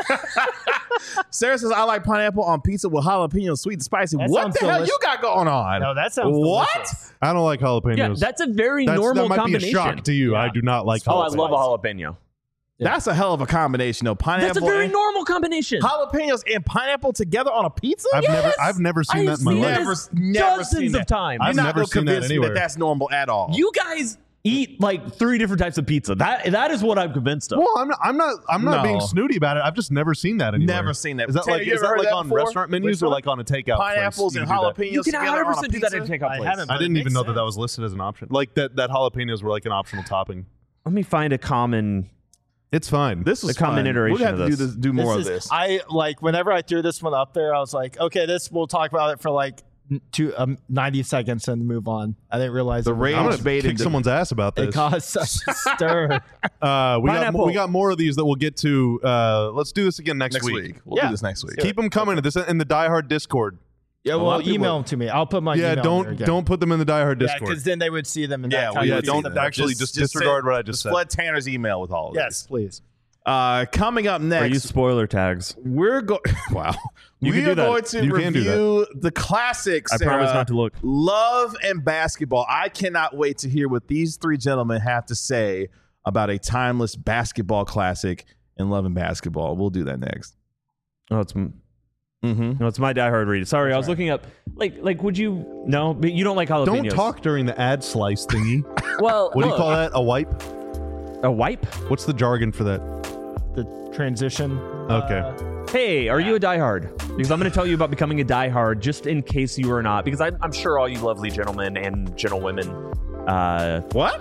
Sarah says I like pineapple on pizza with jalapeno, sweet and spicy. That What sounds the hell delicious. you got going on? No, that sounds what? delicious. I don't like jalapenos. yeah, that's a very That's- normal that might combination. be a shock to you. I do not like Oh, I jalapenos. love a jalapeno. That's a hell of a combination, though. Pineapple That's a very and normal combination. jalapenos and pineapple together on a pizza. I've Yes! never I've never seen I've that in my seen life. this Never- never dozens seen of that. times. You're I've not never gonna seen that convince me anywhere. that that's normal at all. You guys eat like three different types of pizza. That that is what I'm convinced of. Well, I'm not. I'm not. I'm not No. being snooty about it. I've just never seen that anywhere. Never seen that. Is that Tanner, like you is ever that heard like that on before? restaurant menus Which or one? like on a takeout? Pineapples place? and You can do that. jalapenos you can together one hundred on a percent do that pizza? in a takeout I place. haven't. I But it didn't even makes know that that sense. was listed as an option. Like that that jalapenos were like an optional topping. Let me find a common. It's fine. This was The common fun. iteration We'll have of to do this. this. Do more This of is- this. I like whenever I threw this one up there, I was like, okay, this we'll talk about it for like n- two um, ninety seconds and move on. I didn't realize The it was- rage I'm gonna bait kick into- someone's ass about it this. caused such a stir. Uh, we got Pineapple. we got more of these that we'll get to. Uh, let's do this again next, next week. week. We'll Yeah. do this next week. Keep them coming. This in the Die Hard Discord. Yeah, lot well, of people- email them to me. I'll put my yeah, email in there don't again. don't put them in the Die Hard Yeah, Discord. because then they would see them. And Yeah, that well, kind yeah, of would don't see that. actually Just- just, just disregard send- what I just, Just said. flood Tanner's email with all of yes, this. please. Uh, coming up Or next, use spoiler tags. we're going. Wow, You we can do are that. going to You can do review the classics. I promise not to look. Love and basketball. I cannot wait to hear what these three gentlemen have to say about a timeless basketball classic in Love and Basketball. We'll do that next. Oh, it's m- Mm-hmm. no, it's my Die Hard read. Sorry, I was looking up. Like, like, would you? No, but you don't like jalapenos. Don't talk during the ad slice thingy. Well, What do you look, call that? A wipe? A wipe? What's the jargon for that? The transition. Okay. uh, Hey, are you a diehard? Because I'm going to tell you about becoming a diehard, just in case you are not. Because I'm, I'm sure all you lovely gentlemen and gentlewomen, uh, What?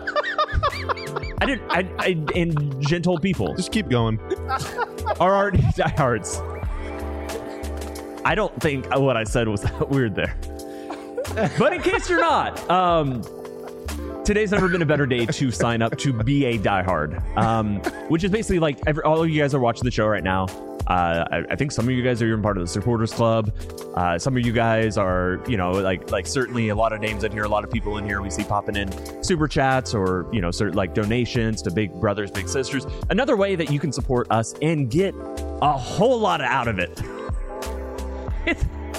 I didn't, I, I, and gentle people Just keep going. are already diehards. I don't think what I said was that weird there. But in case you're not, um, today's never been a better day to sign up to be a diehard, um, which is basically like every, all of you guys are watching the show right now. Uh, I, I think some of you guys are even part of the supporters club. Uh, some of you guys are, you know, like like certainly a lot of names in here, a lot of people in here we see popping in super chats or, you know, certain like donations to big brothers, big sisters. Another way that you can support us and get a whole lot out of it. It's,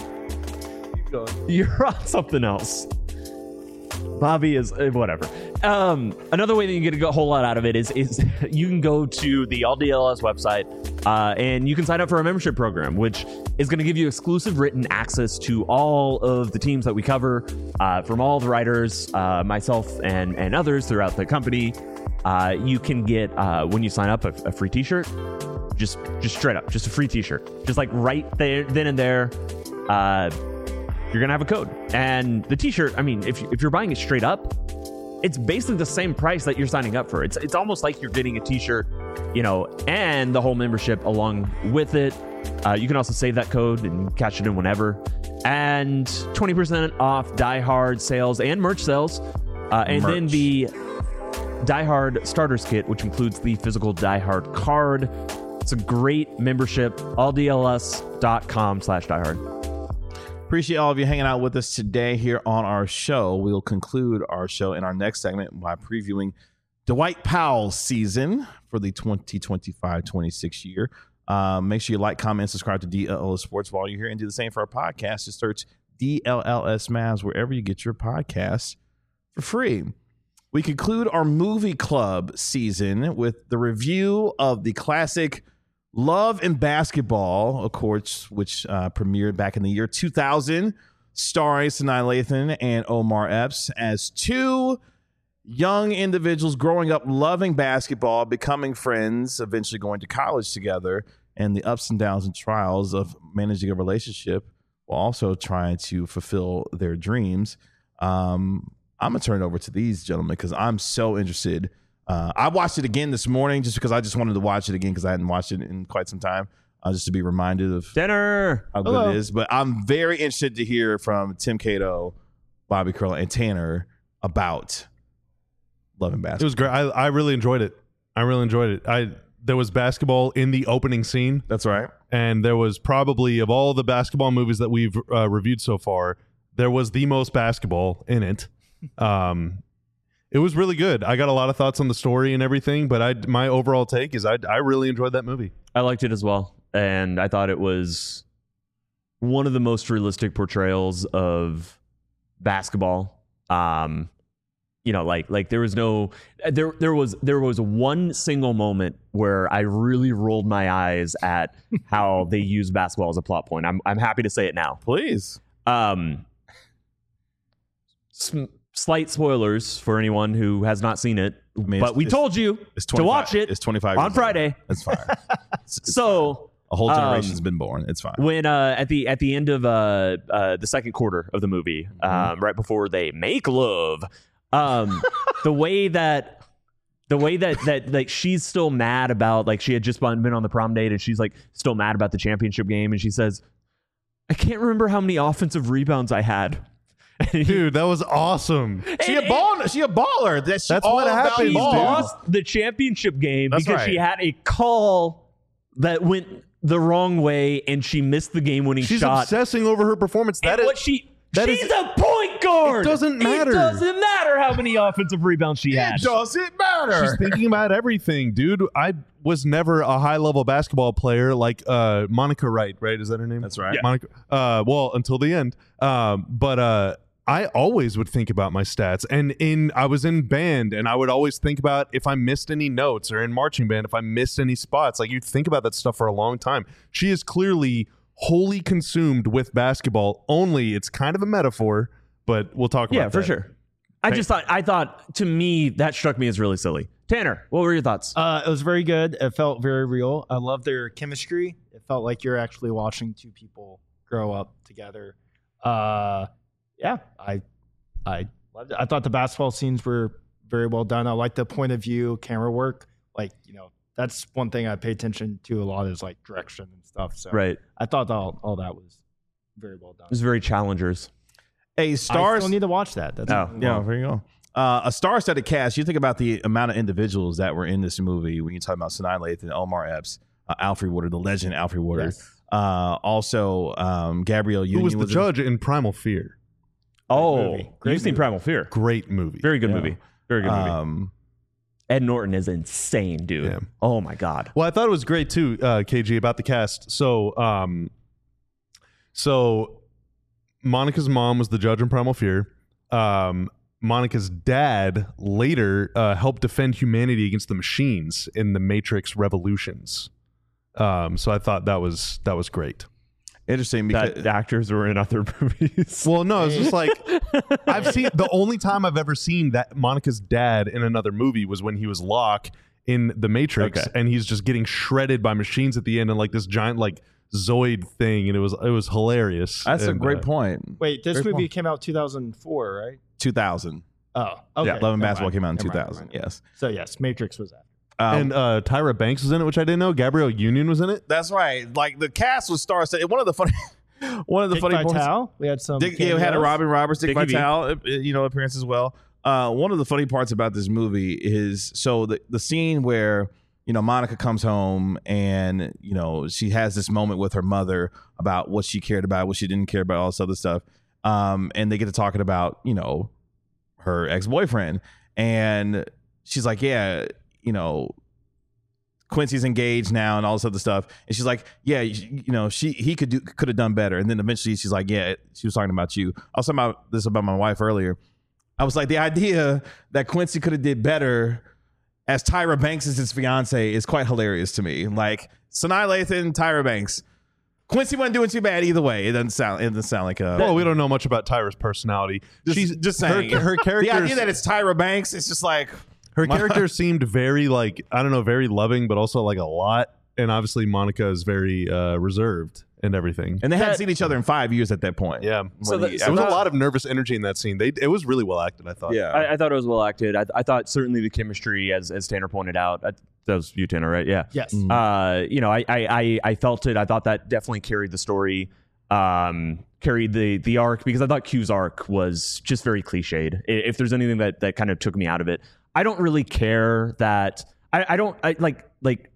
you're on something else. Bobby is uh, whatever. Um, another way that you get a whole lot out of it is is you can go to the All D L S website uh, and you can sign up for a membership program, which is going to give you exclusive written access to all of the teams that we cover uh, from all the writers, uh, myself and and others throughout the company. Uh, you can get uh, when you sign up a, a free T-shirt, just just straight up, just a free T-shirt, just like right there, then and there. Uh, you're gonna have a code, and the T-shirt. I mean, if if you're buying it straight up, it's basically the same price that you're signing up for. It's it's almost like you're getting a T-shirt, you know, and the whole membership along with it. Uh, you can also save that code and catch it in whenever, and twenty percent off Die Hard sales and merch sales, uh, and then Merch. the Die Hard Starters Kit, which includes the physical Die Hard card. It's a great membership. all d l s dot com slash diehard. Appreciate all of you hanging out with us today here on our show. We'll conclude our show in our next segment by previewing Dwight Powell's season for the twenty twenty-five twenty-six year. Um, make sure you like, comment, and subscribe to D L L S Sports while you're here, and do the same for our podcast. Just search D L L S Mavs wherever you get your podcasts for free. We conclude our movie club season with the review of the classic Love and Basketball, of course, which uh, premiered back in the year two thousand, starring Sanaa Lathan and Omar Epps as two young individuals growing up loving basketball, becoming friends, eventually going to college together, and the ups and downs and trials of managing a relationship while also trying to fulfill their dreams. Um, I'm gonna turn it over to these gentlemen because I'm so interested. Uh, I watched it again this morning just because I just wanted to watch it again because I hadn't watched it in quite some time, uh, just to be reminded of Dinner. how good Hello. it is. But I'm very interested to hear from Tim Cato, Bobby Curl, and Tanner about Love and It Basketball. was great. I, I really enjoyed it. I really enjoyed it. I there was basketball in the opening scene, That's right. and there was probably of all the basketball movies that we've uh, reviewed so far, there was the most basketball in it. Um, it was really good. I got a lot of thoughts on the story and everything, but I my overall take is I I really enjoyed that movie. I liked it as well, and I thought it was one of the most realistic portrayals of basketball. Um, you know, like like there was no there there was there was one single moment where I really rolled my eyes at how they use basketball as a plot point. I'm I'm happy to say it now. Please. Um, s- slight spoilers for anyone who has not seen it, I mean, but it's- we it's- told you It's to watch it It's twenty-five on years old. Friday. It's fine. It's- it's So a whole um, generation's been born. It's fine. when uh, at the at the end of uh, uh, the second quarter of the movie, um, right before they make love, um, the way that the way that that like she's still mad about, like she had just been on the prom date and she's like still mad about the championship game, and she says, "I can't remember how many offensive rebounds I had." Dude, that was awesome. She a ball. She a baller. That's, That's all what about happens, She dude. ball. lost the championship game That's because right. she had a call that went the wrong way and she missed the game-winning She's shot. obsessing over her performance. That and is what she that she's is- a point guard. It doesn't matter. It doesn't matter how many offensive rebounds she had. It doesn't matter. she's thinking about everything, dude. I was never a high level basketball player like uh, Monica Wright, right? Is that her name? That's right. Yeah. Monica. Uh, well, until the end. Um, but uh, I always would think about my stats, and in I was in band, and I would always think about if I missed any notes, or in marching band if I missed any spots. Like, you think about that stuff for a long time. She is clearly wholly consumed with basketball. Only it's kind of a metaphor, but we'll talk about Yeah, for that. sure. I just thought I thought to me that struck me as really silly. Tanner, what were your thoughts? Uh, it was very good. It felt very real. I love their chemistry. It felt like you're actually watching two people grow up together. Uh, yeah, I, I loved it. I thought the basketball scenes were very well done. I like the point of view, camera work. Like, you know, that's one thing I pay attention to a lot is like direction and stuff. So Right. I thought all, all that was very well done. It was very challengers. A I stars. still need to watch that. That's Oh, Yeah, there you go. Uh, a star-studded cast. You think about the amount of individuals that were in this movie when you talk about Sanaa Lathan, Omar Epps, uh, Alfred Woodard, the legend Alfred Woodard. Yes. Uh, also, um, Gabrielle Who Union was the in- judge in Primal Fear? Oh, movie. Great you've seen movie. Primal Fear. Great movie. Very good Yeah. movie. Very good movie. Um, Ed Norton is insane, dude. Yeah. Oh my god. Well, I thought it was great too, uh, K G, about the cast. So, um, so Monica's mom was the judge in Primal Fear. Um, Monica's dad later uh, helped defend humanity against the machines in the Matrix Revolutions. Um, so I thought that was that was great. interesting because That actors were in other movies. Well, no, it's just like I've seen the only time I've ever seen that Monica's dad in another movie was when he was Locke in The Matrix, Okay. and he's just getting shredded by machines at the end, and like this giant like Zoid thing, and it was it was hilarious. that's a And, great uh, point. Wait, this Great movie point. came out two thousand four, right? two thousand. Oh, okay. Yeah, Love and Never Basketball mind. came out in Never two mind, thousand. never mind. Yes. So yes, Matrix was after. Um, and uh, Tyra Banks was in it, which I didn't know. Gabrielle Union was in it. that's right. Like the cast was star-studded. One of the funny, one of the Dick funny points. Vitale. We had some. Dick, yeah, we had a cameos. Robin Roberts, Dick Dickie V. Vitale, uh, you know, appearance as well. Uh, one of the funny parts about this movie is so the the scene where you know Monica comes home and you know she has this moment with her mother about what she cared about, what she didn't care about, all this other stuff. Um, and they get to talking about you know her ex boyfriend, and she's like, yeah, you know. Quincy's engaged now and all this other stuff, and she's like, "Yeah, you, you know, she he could do could have done better." And then eventually, she's like, "Yeah, she was talking about you." I was talking about this about my wife earlier. I was like, the idea that Quincy could have did better as Tyra Banks is his fiance is quite hilarious to me. Like Sanaa Lathan, Tyra Banks, Quincy wasn't doing too bad either way. It doesn't sound it doesn't sound like a. Well, we don't know much about Tyra's personality. Just- She's just her, saying. her the character. idea that it's Tyra Banks, it's just like Her My- character seemed very like I don't know, very loving, but also like a lot. And obviously Monica is very uh, reserved and everything. And they hadn't That- seen each other in five years at that point. Yeah. So When the- he- so There was that- a lot of nervous energy in that scene. They it was really well acted, I thought. yeah. I, I thought it was well acted. I, I thought certainly the chemistry, as as Tanner pointed out, I, that was you, Tanner, right? Yeah. Yes. Mm. Uh, you know, I, I I I felt it. I thought that definitely carried the story, um, carried the the arc, because I thought Q's arc was just very cliched. I- If there's anything that that kind of took me out of it, I don't really care that I, I don't I like like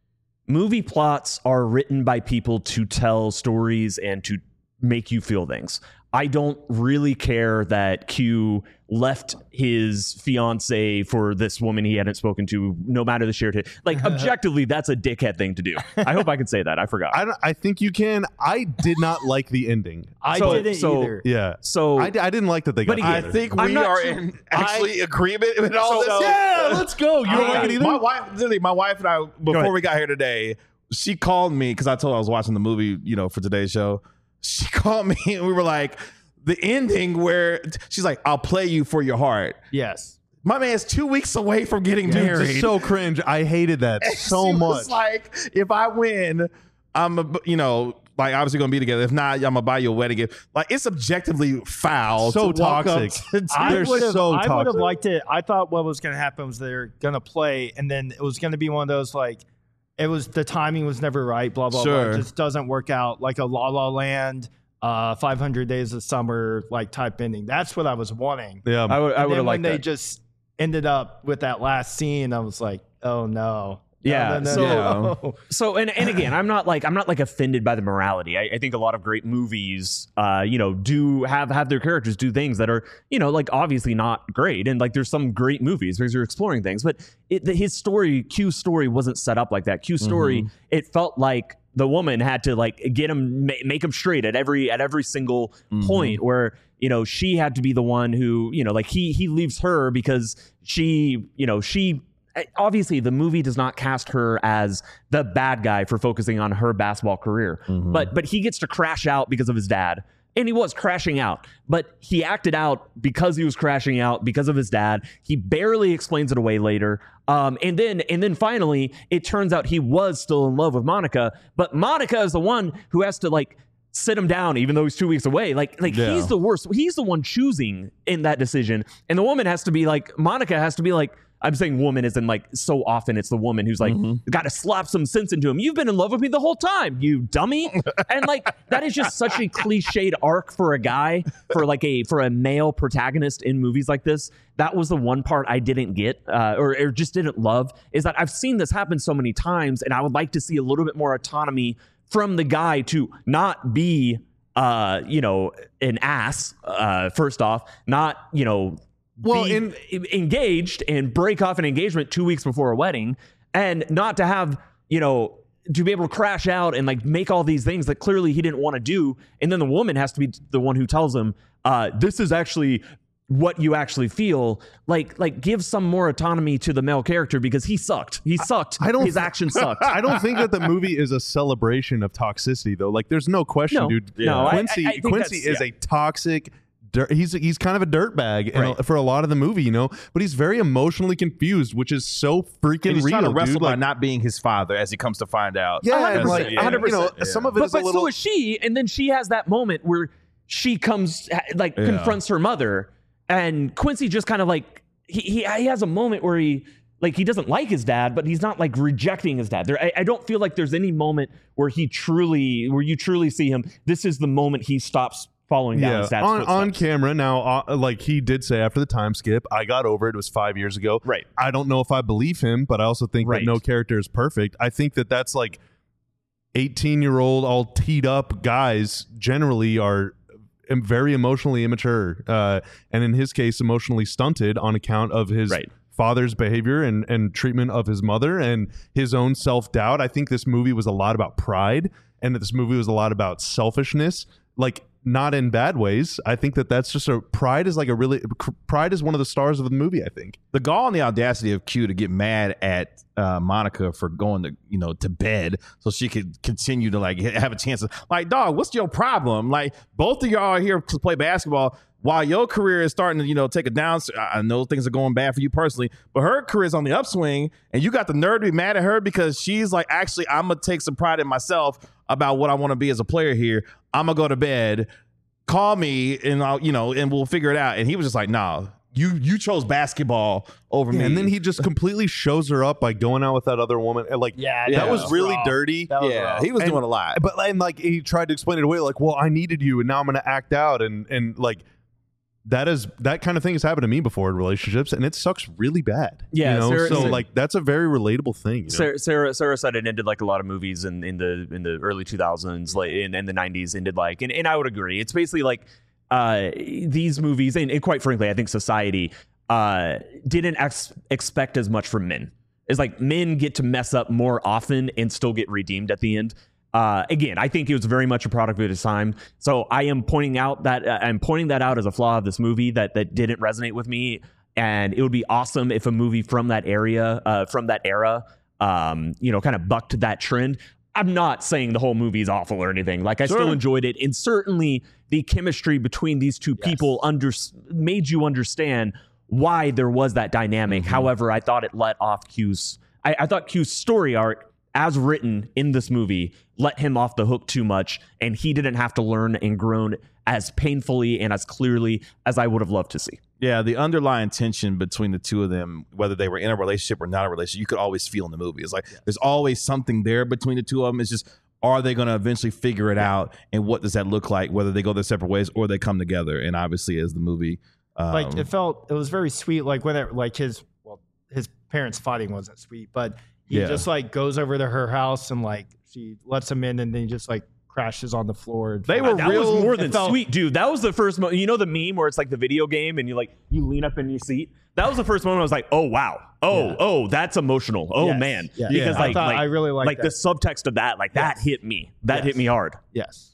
movie plots are written by people to tell stories and to make you feel things. I don't really care that Q left his fiance for this woman he hadn't spoken to, no matter the shared hit. Like, objectively, that's a dickhead thing to do. I hope I can say that. I forgot. I, don't, I think you can. I did not like the ending. I So- didn't so- either. Yeah. so I, I didn't like that they got But I again, together. think I'm we not are sure- in actually agreement with all So- this. Yeah, let's go. You don't I- like it either? My wife, literally, my wife and I, before ahead. we got here today, she called me because I told her I was watching the movie, you know, for today's show. She called me and we were like, the ending where she's like, I'll play you for your heart. Yes. My man's two weeks away from getting Dude, married. it's so cringe. I hated that so She much. was like, if I win, I'm, a, you know, like obviously gonna be together. If not, I'm gonna buy you a wedding gift. Like it's objectively foul. So to walk up toxic. to- to- I They're would have. so I would have toxic. liked it. I thought what was going to happen was they're going to play, and then it was going to be one of those like, it was the timing was never right. Blah blah Sure. blah. It just doesn't work out. Like a La La Land, uh, five hundred Days of Summer like type ending. That's what I was wanting. yeah. I would I And would then have when liked they that. just ended up with that last scene, I was like, oh no. Yeah, No, no, so- no, no. So and and again, I'm not like I'm not like offended by the morality. I, I think a lot of great movies, uh, you know, do have have their characters do things that are, you know, like obviously not great. And like there's some great movies because you're exploring things, but it, the, his story, Q's story, wasn't set up like that. Q's story, it felt like the woman had to like get him, ma- make him straight at every at every single point where. You know, she had to be the one who, you know, like he he leaves her because she, you know, she obviously the movie does not cast her as the bad guy for focusing on her basketball career. But but he gets to crash out because of his dad. And he was crashing out, but he acted out because he was crashing out because of his dad. He barely explains it away later. Um, and then and then finally, it turns out he was still in love with Monica, but Monica is the one who has to like sit him down even though he's two weeks away. Like like Yeah. he's the worst. He's the one choosing in that decision. And the woman has to be like, Monica has to be like, I'm saying woman isn't like so often it's the woman who's like got to slap some sense into him. You've been in love with me the whole time, you dummy. And like that is just such a cliched arc for a guy, for like a for a male protagonist in movies like this. That was the one part I didn't get uh, or, or just didn't love, is that I've seen this happen so many times, and I would like to see a little bit more autonomy from the guy to not be uh, you know, an ass, uh, first off, not, you know, Well, be in- engaged and break off an engagement two weeks before a wedding, and not to have, you know, to be able to crash out and like make all these things that clearly he didn't want to do. And then the woman has to be the one who tells him, uh, this is actually what you actually feel. Like, like give some more autonomy to the male character, because he sucked. He sucked. I don't His actions sucked. I don't think that the movie is a celebration of toxicity, though. Like, there's no question, No. dude. No, I- Quincy, I- I think Quincy that's- is yeah. a toxic. Dirt, he's he's kind of a dirtbag in a- Right. for a lot of the movie, you know. But he's very emotionally confused, which is so freaking and he's real, trying to wrestle dude. by Like, not being his father, as he comes to find out. yeah, one hundred and like percent, one hundred you know, percent. some of it But, is a but little. so is she, and then she has that moment where she comes, like, Yeah. confronts her mother, and Quincy just kind of like he, he he has a moment where he like he doesn't like his dad, but he's not like rejecting his dad. There, I, I don't feel like there's any moment where he truly, where you truly see him. This is the moment he stops following down Yeah, his dad's on, footsteps. on camera now, uh, like he did say after the time skip, I got over it. It was five years ago. Right. I don't know if I believe him, but I also think Right. that no character is perfect. I think that that's like eighteen year old, all teed up guys generally are em- very emotionally immature, uh, and in his case, emotionally stunted on account of his Right. father's behavior and, and treatment of his mother and his own self doubt. I think this movie was a lot about pride, and that this movie was a lot about selfishness. Like, not in bad ways. I think that that's just a pride is like a really pride is one of the stars of the movie. I think. The gall and the audacity of Q to get mad at uh, Monica for going to, you know, to bed so she could continue to like have a chance of, like, dog, what's your problem? Like, both of y'all are here to play basketball while your career is starting to, you know, take a down. I know things are going bad for you personally, but her career is on the upswing, and you got the nerve to be mad at her because she's like, actually, I'm gonna take some pride in myself. about what I want to be as a player here. I'm gonna go to bed. Call me and I'll, you know, and we'll figure it out. And he was just like, nah, you you chose basketball over Yeah, me. and then he just completely shows her up by going out with that other woman. And like, Yeah, that yeah. was really Rough. dirty. That was yeah, rough. he was And- doing a lot. But and like he tried to explain it away, like, well, I needed you, and now I'm going to act out, and and like that is that kind of thing has happened to me before in relationships, and it sucks really bad. Yeah, you know? Sarah- so Sarah- like that's a very relatable thing. You know? Sarah, Sarah Sarah said it ended like a lot of movies in, in the in the early two thousands, like in, in the nineties ended like, and, and I would agree. It's basically like uh, these movies, and, and quite frankly, I think society uh, didn't ex- expect as much from men. It's like men get to mess up more often and still get redeemed at the end. Uh, again, I think it was very much a product of its time. So I am pointing out that uh, I'm pointing that out as a flaw of this movie that that didn't resonate with me. And it would be awesome if a movie from that area, uh, from that era, um, you know, kind of bucked that trend. I'm not saying the whole movie is awful or anything. Like I Sure. still enjoyed it, and certainly the chemistry between these two Yes. people under made you understand why there was that dynamic. Mm-hmm. However, I thought it let off Q's. I, I thought Q's story arc, as written in this movie, let him off the hook too much, and he didn't have to learn and grow as painfully and as clearly as I would have loved to see. Yeah, the underlying tension between the two of them, whether they were in a relationship or not a relationship, you could always feel in the movie. It's like there's always something there between the two of them. It's just, are they going to eventually figure it out, and what does that look like? Whether they go their separate ways or they come together. And obviously, as the movie, um, like it felt it was very sweet. Like when it, like his well his parents fighting wasn't sweet, but he Yeah. just like goes over to her house and like she lets him in, and then he just like crashes on the floor. And They were That real- was more it than felt- sweet, dude. That was the first moment. You know the meme where it's like the video game and you like you lean up in your seat. That was the first moment I was like, oh wow, oh Yeah. oh, that's emotional. Oh Yes. man, Yeah. because I like, thought- like I really liked like the that. subtext of that, like that Yes. hit me. That Yes. hit me hard. yes,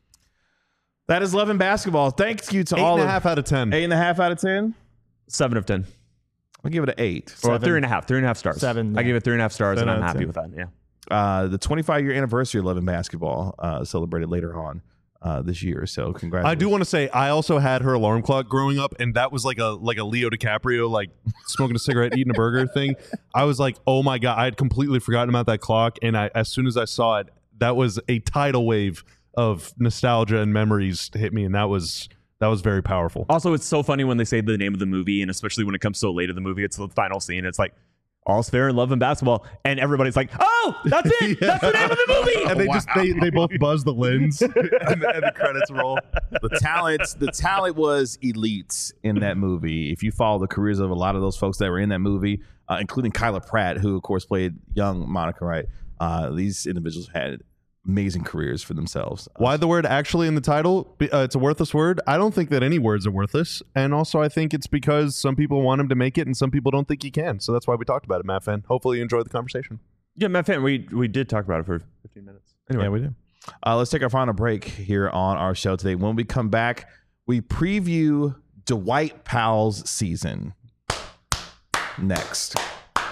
that is Love and Basketball. Thank you to Eight all and a of half out of ten. eight and a half out of ten. Seven of ten. I'll give it an eight. Or Seven. three and a half. Three and a half stars. Seven, I yeah. give it three and a half stars, Seven and I'm out of happy ten. with that. Yeah. Uh, the twenty-five year anniversary of Love and Basketball uh, celebrated later on uh, this year. So congratulations. I do want to say I also had her alarm clock growing up, and that was like a like a Leo DiCaprio like smoking a cigarette, eating a burger thing. I was like, oh my god, I had completely forgotten about that clock, and I as soon as I saw it, that was a tidal wave of nostalgia and memories to hit me, and that was that was very powerful. Also, it's so funny when they say the name of the movie, and especially when it comes so late in the movie, it's the final scene. It's like all's fair in love and basketball, and everybody's like, "Oh, that's it! That's the name of the movie!" And they just they, they both buzz the lens, and, the, and the credits roll. the talent the talent was elite in that movie. If you follow the careers of a lot of those folks that were in that movie, uh, including Kyla Pratt, who of course played young Monica, right? Uh, these individuals had amazing careers for themselves. Why the word actually in the title? Be- Uh, it's a worthless word. I don't think that any words are worthless. And also, I think it's because some people want him to make it and some people don't think he can. So that's why we talked about it, Matt Fenn. Hopefully you enjoyed the conversation. Yeah, Matt Fan, we we did talk about it for fifteen minutes. Anyway, Yeah, we do. Uh, let's take our final break here on our show today. When we come back, we preview Dwight Powell's season. Next.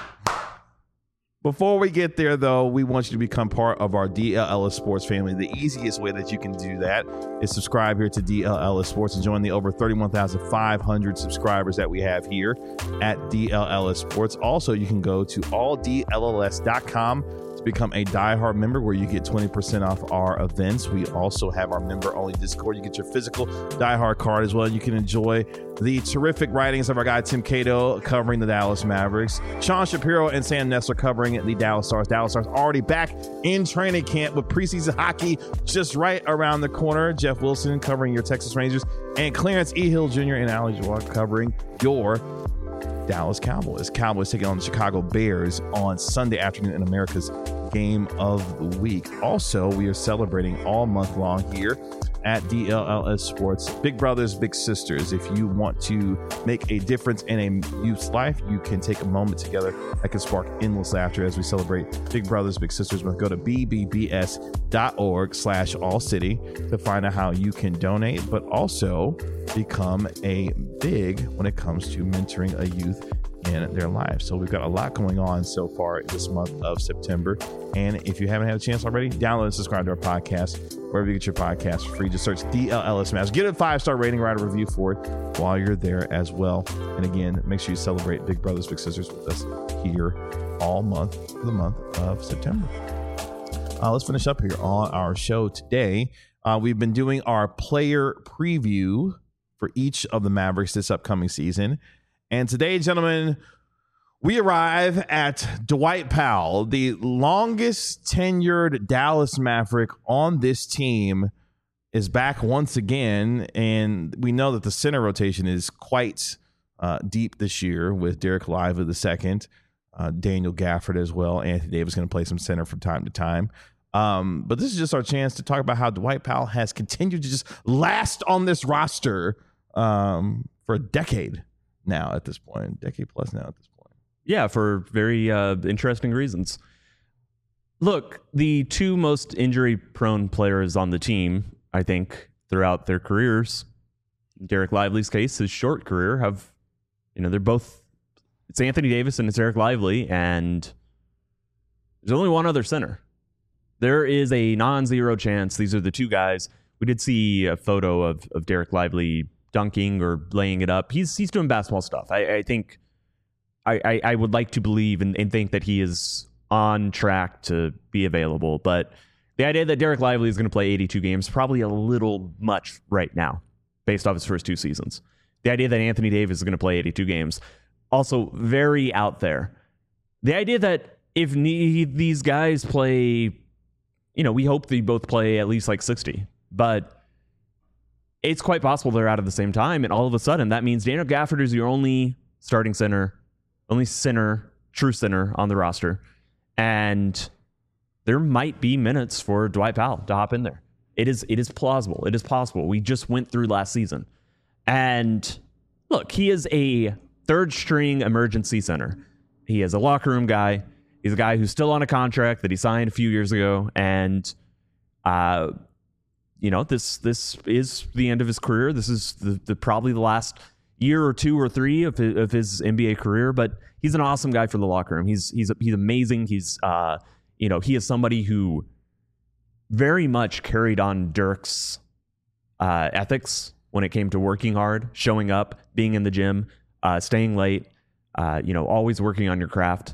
Before we get there, though, we want you to become part of our D L L S Sports family. The easiest way that you can do that is subscribe here to D L L S Sports and join the over thirty-one thousand five hundred subscribers that we have here at D L L S Sports. Also, you can go to all D L L S dot com to become a diehard member where you get twenty percent off our events. We also have our member-only Discord. You get your physical diehard card as well. You can enjoy the terrific writings of our guy Tim Cato covering the Dallas Mavericks, Sean Shapiro and Sam Nessler covering the Dallas Stars. Dallas Stars already back in training camp with preseason hockey just right around the corner. Jeff Wilson covering your Texas Rangers, and Clarence E. Hill Junior and Ali Jawad covering your Dallas Cowboys. Cowboys taking on the Chicago Bears on Sunday afternoon in America's Game of the Week. Also, we are celebrating all month long here at D L L S Sports. Big brothers, big sisters. If you want to make a difference in a youth's life, you can take a moment together that can spark endless laughter as we celebrate Big Brothers, Big Sisters. Go to b b b s dot org slash all city to find out how you can donate, but also become a big when it comes to mentoring a youth in their lives. So we've got a lot going on so far this month of September. And if you haven't had a chance already, download and subscribe to our podcast wherever you get your podcast for free. Just search D L L S Mavericks. Get a five-star rating, write a review for it while you're there as well. And again, make sure you celebrate Big Brothers Big Sisters with us here all month for the month of September. Uh, let's finish up here on our show today. Uh, we've been doing our player preview for each of the Mavericks this upcoming season. And today, gentlemen, we arrive at Dwight Powell, the longest tenured Dallas Maverick on this team, is back once again. And we know that the center rotation is quite uh, deep this year with Derek Lively the second, uh, Daniel Gafford as well. Anthony Davis going to play some center from time to time. Um, but this is just our chance to talk about how Dwight Powell has continued to just last on this roster um, for a decade now at this point, decade plus now at this point. Yeah, for very uh, interesting reasons. Look, the two most injury-prone players on the team, I think, throughout their careers, Derek Lively's case, his short career, have, you know, they're both, it's Anthony Davis and it's Derek Lively, and there's only one other center. There is a non-zero chance these are the two guys. We did see a photo of, of Derek Lively dunking or laying it up. He's he's doing basketball stuff. I, I think I, I, I would like to believe and, and think that he is on track to be available. But the idea that Derek Lively is going to play eighty-two games, probably a little much right now, based off his first two seasons. The idea that Anthony Davis is going to play eighty-two games, also very out there. The idea that if ne- these guys play, you know, we hope they both play at least like sixty, but it's quite possible they're out at the same time. And all of a sudden, that means Daniel Gafford is your only starting center, only center, true center on the roster. And there might be minutes for Dwight Powell to hop in there. It is, it is plausible. It is possible. We just went through last season. And look, he is a third string emergency center. He is a locker room guy. He's a guy who's still on a contract that he signed a few years ago, and uh, you know this this is the end of his career. This is the, the probably the last year or two or three of his, of his N B A career. But he's an awesome guy for the locker room. He's he's he's amazing. He's uh, you know he is somebody who very much carried on Dirk's uh, ethics when it came to working hard, showing up, being in the gym, uh, staying late. Uh, you know, always working on your craft.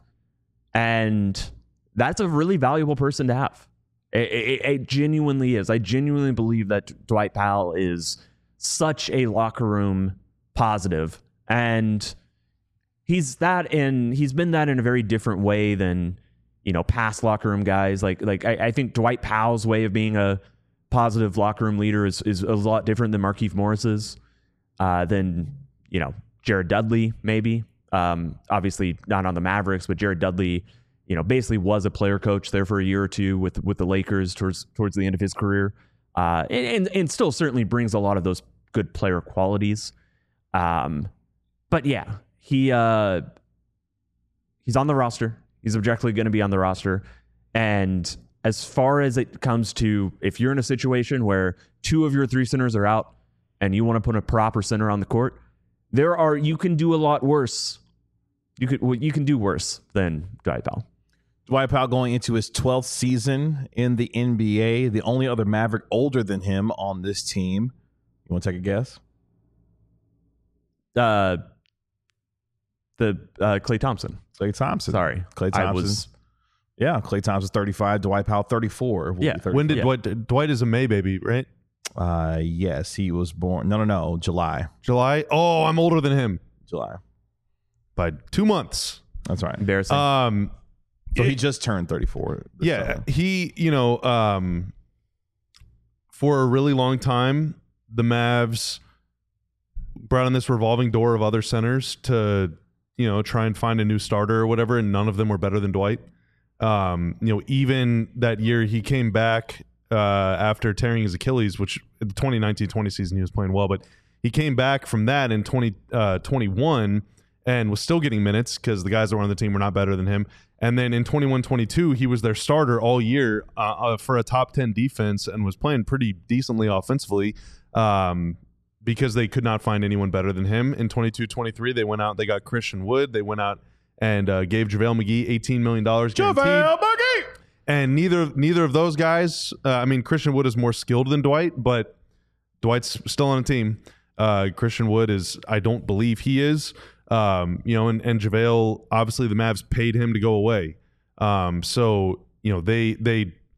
And that's a really valuable person to have. It, it, it genuinely is. I genuinely believe that Dwight Powell is such a locker room positive, and he's that in. He's been that in a very different way than, you know, past locker room guys. Like like I, I think Dwight Powell's way of being a positive locker room leader is is a lot different than Markieff Morris's. Uh, than you know Jared Dudley maybe. Um, obviously not on the Mavericks, but Jared Dudley, you know, basically was a player coach there for a year or two with with the Lakers towards towards the end of his career, uh, and, and and still certainly brings a lot of those good player qualities. Um, but yeah, he uh, he's on the roster. He's objectively going to be on the roster, and as far as it comes to, if you're in a situation where two of your three centers are out and you want to put a proper center on the court, there are you can do a lot worse. You could well, you can do worse than Dwight Powell. Dwight Powell going into his twelfth season in the N B A. The only other Maverick older than him on this team. You want to take a guess? Uh, the uh, Klay Thompson. Klay Thompson. Sorry, Klay Thompson. I was, yeah, Klay Thompson thirty-five. Dwight Powell thirty-four. Yeah. When did Yeah. Dwight? Dwight is a May baby, right? Uh, yes, he was born. No, no, no. July. July. Oh, I'm older than him July. by two months. That's right. embarrassing. Um, So it- he just turned thirty-four. this yeah, summer. he, you know, um, for a really long time, the Mavs brought in this revolving door of other centers to, you know, try and find a new starter or whatever, and none of them were better than Dwight. Um, you know, even that year he came back uh, after tearing his Achilles, which in the twenty nineteen twenty season he was playing well, but he came back from that in twenty twenty-one and was still getting minutes because the guys that were on the team were not better than him. And then in twenty-one twenty-two, he was their starter all year uh, uh, for a top ten defense and was playing pretty decently offensively um, because they could not find anyone better than him. In twenty-two twenty-three, they went out, they got Christian Wood. They went out and uh, gave JaVale McGee eighteen million dollars guaranteed. JaVale McGee! And neither neither of those guys, uh, I mean, Christian Wood is more skilled than Dwight, but Dwight's still on a team. Uh, Christian Wood is, I don't believe he is. Um, you know, and, and JaVale, obviously the Mavs paid him to go away. Um, so, you know, they they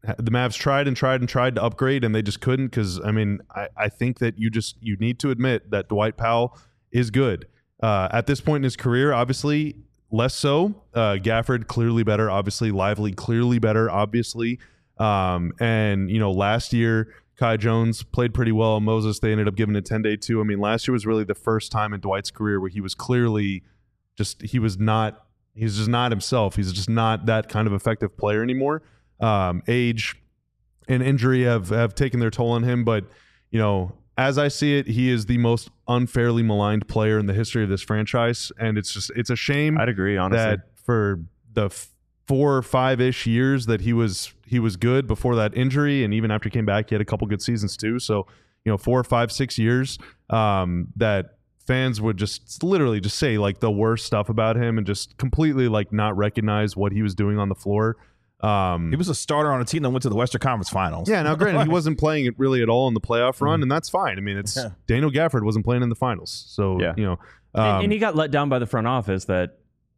the Mavs tried and tried and tried to upgrade, and they just couldn't. Because I mean, I, I think that you just you need to admit that Dwight Powell is good uh, at this point in his career. Obviously, less so. Uh, Gafford clearly better. Obviously, Lively clearly better. Obviously, um, and you know, last year Kai Jones played pretty well. Moses, they ended up giving it ten day too. I mean, last year was really the first time in Dwight's career where he was clearly just he was not. He's just not himself. He's just not that kind of effective player anymore. Um, age and injury have, have taken their toll on him. But, you know, as I see it, he is the most unfairly maligned player in the history of this franchise. And it's just, it's a shame. I'd agree, honestly. That for the f- four or five-ish years that he was, he was good before that injury. And even after he came back, he had a couple good seasons too. So, you know, four or five, six years um, that, fans would just literally just say like the worst stuff about him and just completely like not recognize what he was doing on the floor. Um, He was a starter on a team that went to the Western Conference Finals. yeah, now granted, he wasn't playing it really at all in the playoff run, and that's fine. I mean, it's Yeah. Daniel Gafford wasn't playing in the finals. So, Yeah. you know. And, Um, and he got let down by the front office that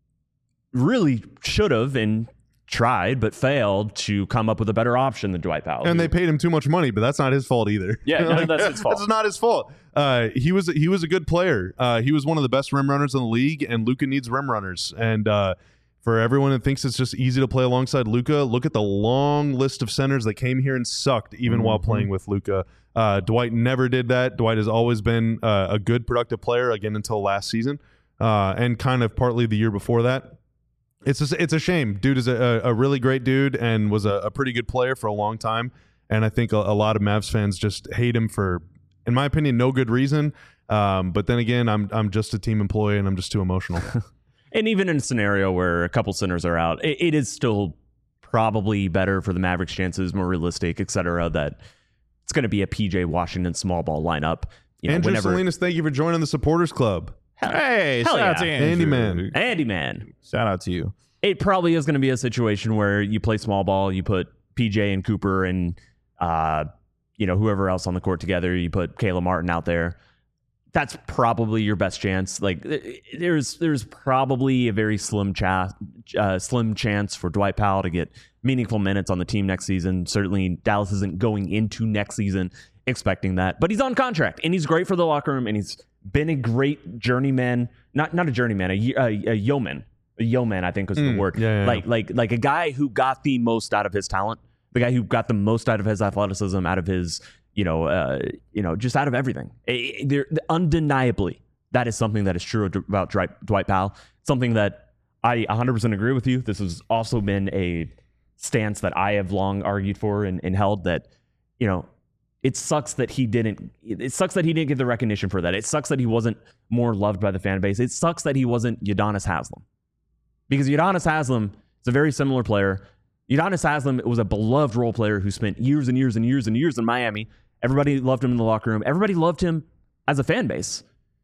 really should have and tried but failed to come up with a better option than Dwight Powell. and who- they paid him too much money, but that's not his fault either. Yeah, no, that's his fault. That's not his fault. Uh, he was he was a good player. Uh, he was one of the best rim runners in the league, and Luka needs rim runners. And uh, for everyone that thinks it's just easy to play alongside Luka, look at the long list of centers that came here and sucked even while playing with Luka. Uh, Dwight never did that. Dwight has always been uh, a good, productive player, again, until last season, uh, and kind of partly the year before that. It's a, it's a shame. Dude is a, a really great dude and was a, a pretty good player for a long time. And I think a, a lot of Mavs fans just hate him for, in my opinion, no good reason. Um, but then again, I'm I'm just a team employee and I'm just too emotional. And even in a scenario where a couple centers are out, it, it is still probably better for the Mavericks' chances, more realistic, et cetera, that it's going to be a P J Washington small ball lineup. You know, Andrew whenever, Salinas, thank you for joining the supporters club. Hey, Hell shout out yeah. to Andrew. Andy Man. Andy Man. Shout out to you. It probably is going to be a situation where you play small ball, you put P J and Cooper and uh, you know, whoever else on the court together, you put Caleb Martin out there. That's probably your best chance. Like there's there's probably a very slim cha- uh, slim chance for Dwight Powell to get meaningful minutes on the team next season. Certainly Dallas isn't going into next season expecting that, but he's on contract and he's great for the locker room and he's been a great journeyman, not not a journeyman, a, a, a yeoman. A yeoman, I think was Mm, the word. yeah, yeah, like like like a guy who got the most out of his talent, the guy who got the most out of his athleticism, out of his, you know, uh, you know, just out of everything. Eh, there, undeniably, that is something that is true about Dwight, Dwight Powell. Something that I one hundred percent agree with you. This has also been a stance that I have long argued for and, and held that, you know, it sucks that he didn't. It sucks that he didn't get the recognition for that. It sucks that he wasn't more loved by the fan base. It sucks that he wasn't Udonis Haslem. Because Udonis Haslem is a very similar player. Udonis Haslem was a beloved role player who spent years and years and years and years in Miami. Everybody loved him in the locker room. Everybody loved him as a fan base.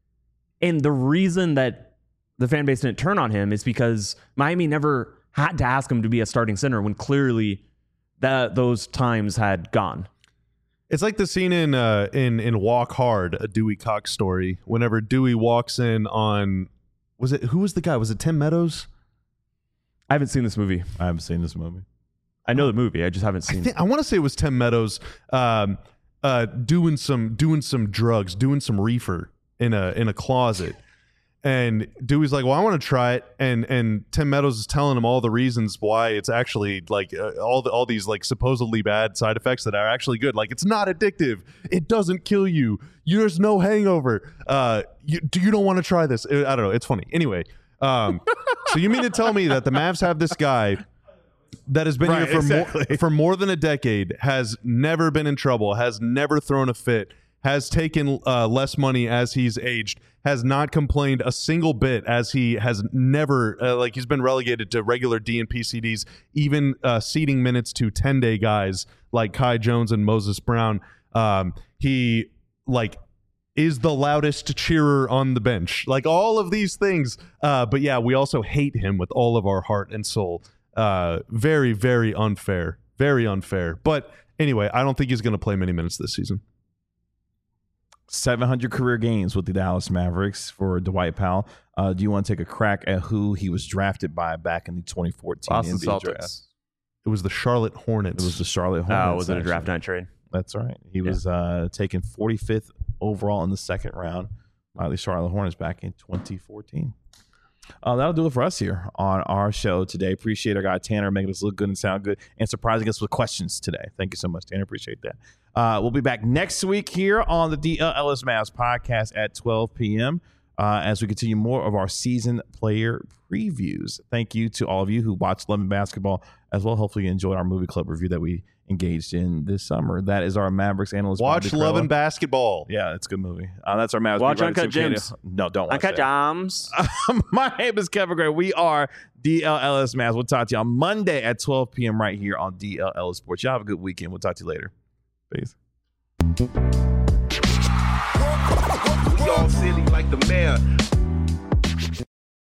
And the reason that the fan base didn't turn on him is because Miami never had to ask him to be a starting center when clearly that those times had gone. It's like the scene in uh, in in Walk Hard, a Dewey Cox story. Whenever Dewey walks in on, was it who was the guy? Was it Tim Meadows? I haven't seen this movie. I haven't seen this movie. I know the movie. I just haven't I, seen think, I want to say it was Tim Meadows um, uh, doing some doing some drugs, doing some reefer in a in a closet. And Dewey's like, well, I want to try it. And and Tim Meadows is telling him all the reasons why it's actually like uh, all the, all these like supposedly bad side effects that are actually good. Like it's not addictive. It doesn't kill you. There's no hangover. Uh, you, do you don't want to try this? I don't know. It's funny. Anyway, um, so you mean to tell me that the Mavs have this guy that has been Right, here for exactly. more for more than a decade, has never been in trouble, has never thrown a fit, has taken uh, less money as he's aged, has not complained a single bit as he has never, uh, like he's been relegated to regular D and P C Ds, even uh, ceding minutes to ten-day guys like Kai Jones and Moses Brown. Um, he, like, is the loudest cheerer on the bench. Like, all of these things. Uh, but, yeah, we also hate him with all of our heart and soul. Uh, very, very unfair. Very unfair. But, anyway, I don't think he's going to play many minutes this season. seven hundred career games with the Dallas Mavericks for Dwight Powell. Uh, do you want to take a crack at who he was drafted by back in the twenty fourteen Boston N B A Celtics. draft? It was the Charlotte Hornets. It was the Charlotte Hornets. Oh, was it a actually. draft night trade? That's right. He Yeah. was uh, taken forty-fifth overall in the second round by the Charlotte Hornets back in twenty fourteen. Uh, that'll do it for us here on our show today. Appreciate our guy Tanner making us look good and sound good and surprising us with questions today. Thank you so much, Tanner. Appreciate that. Uh, we'll be back next week here on the D L Ellis Mavs podcast at twelve p.m. Uh, as we continue more of our season player previews. Thank you to all of you who watched Love and Basketball as well. Hopefully you enjoyed our movie club review that we engaged in this summer. That is our Mavericks analyst. Watch Bobby Love Crella. and Basketball. Yeah, it's a good movie. Uh, that's our Mavericks. Watch beat writer, Uncut Tim Gems. Cato. No, don't watch Uncut that. Gems. My name is Kevin Gray. We are D L Ellis Mavs. We'll talk to you on Monday at twelve p.m. right here on D L Ellis Sports. Y'all have a good weekend. We'll talk to you later. Peace. We all silly like the mayor.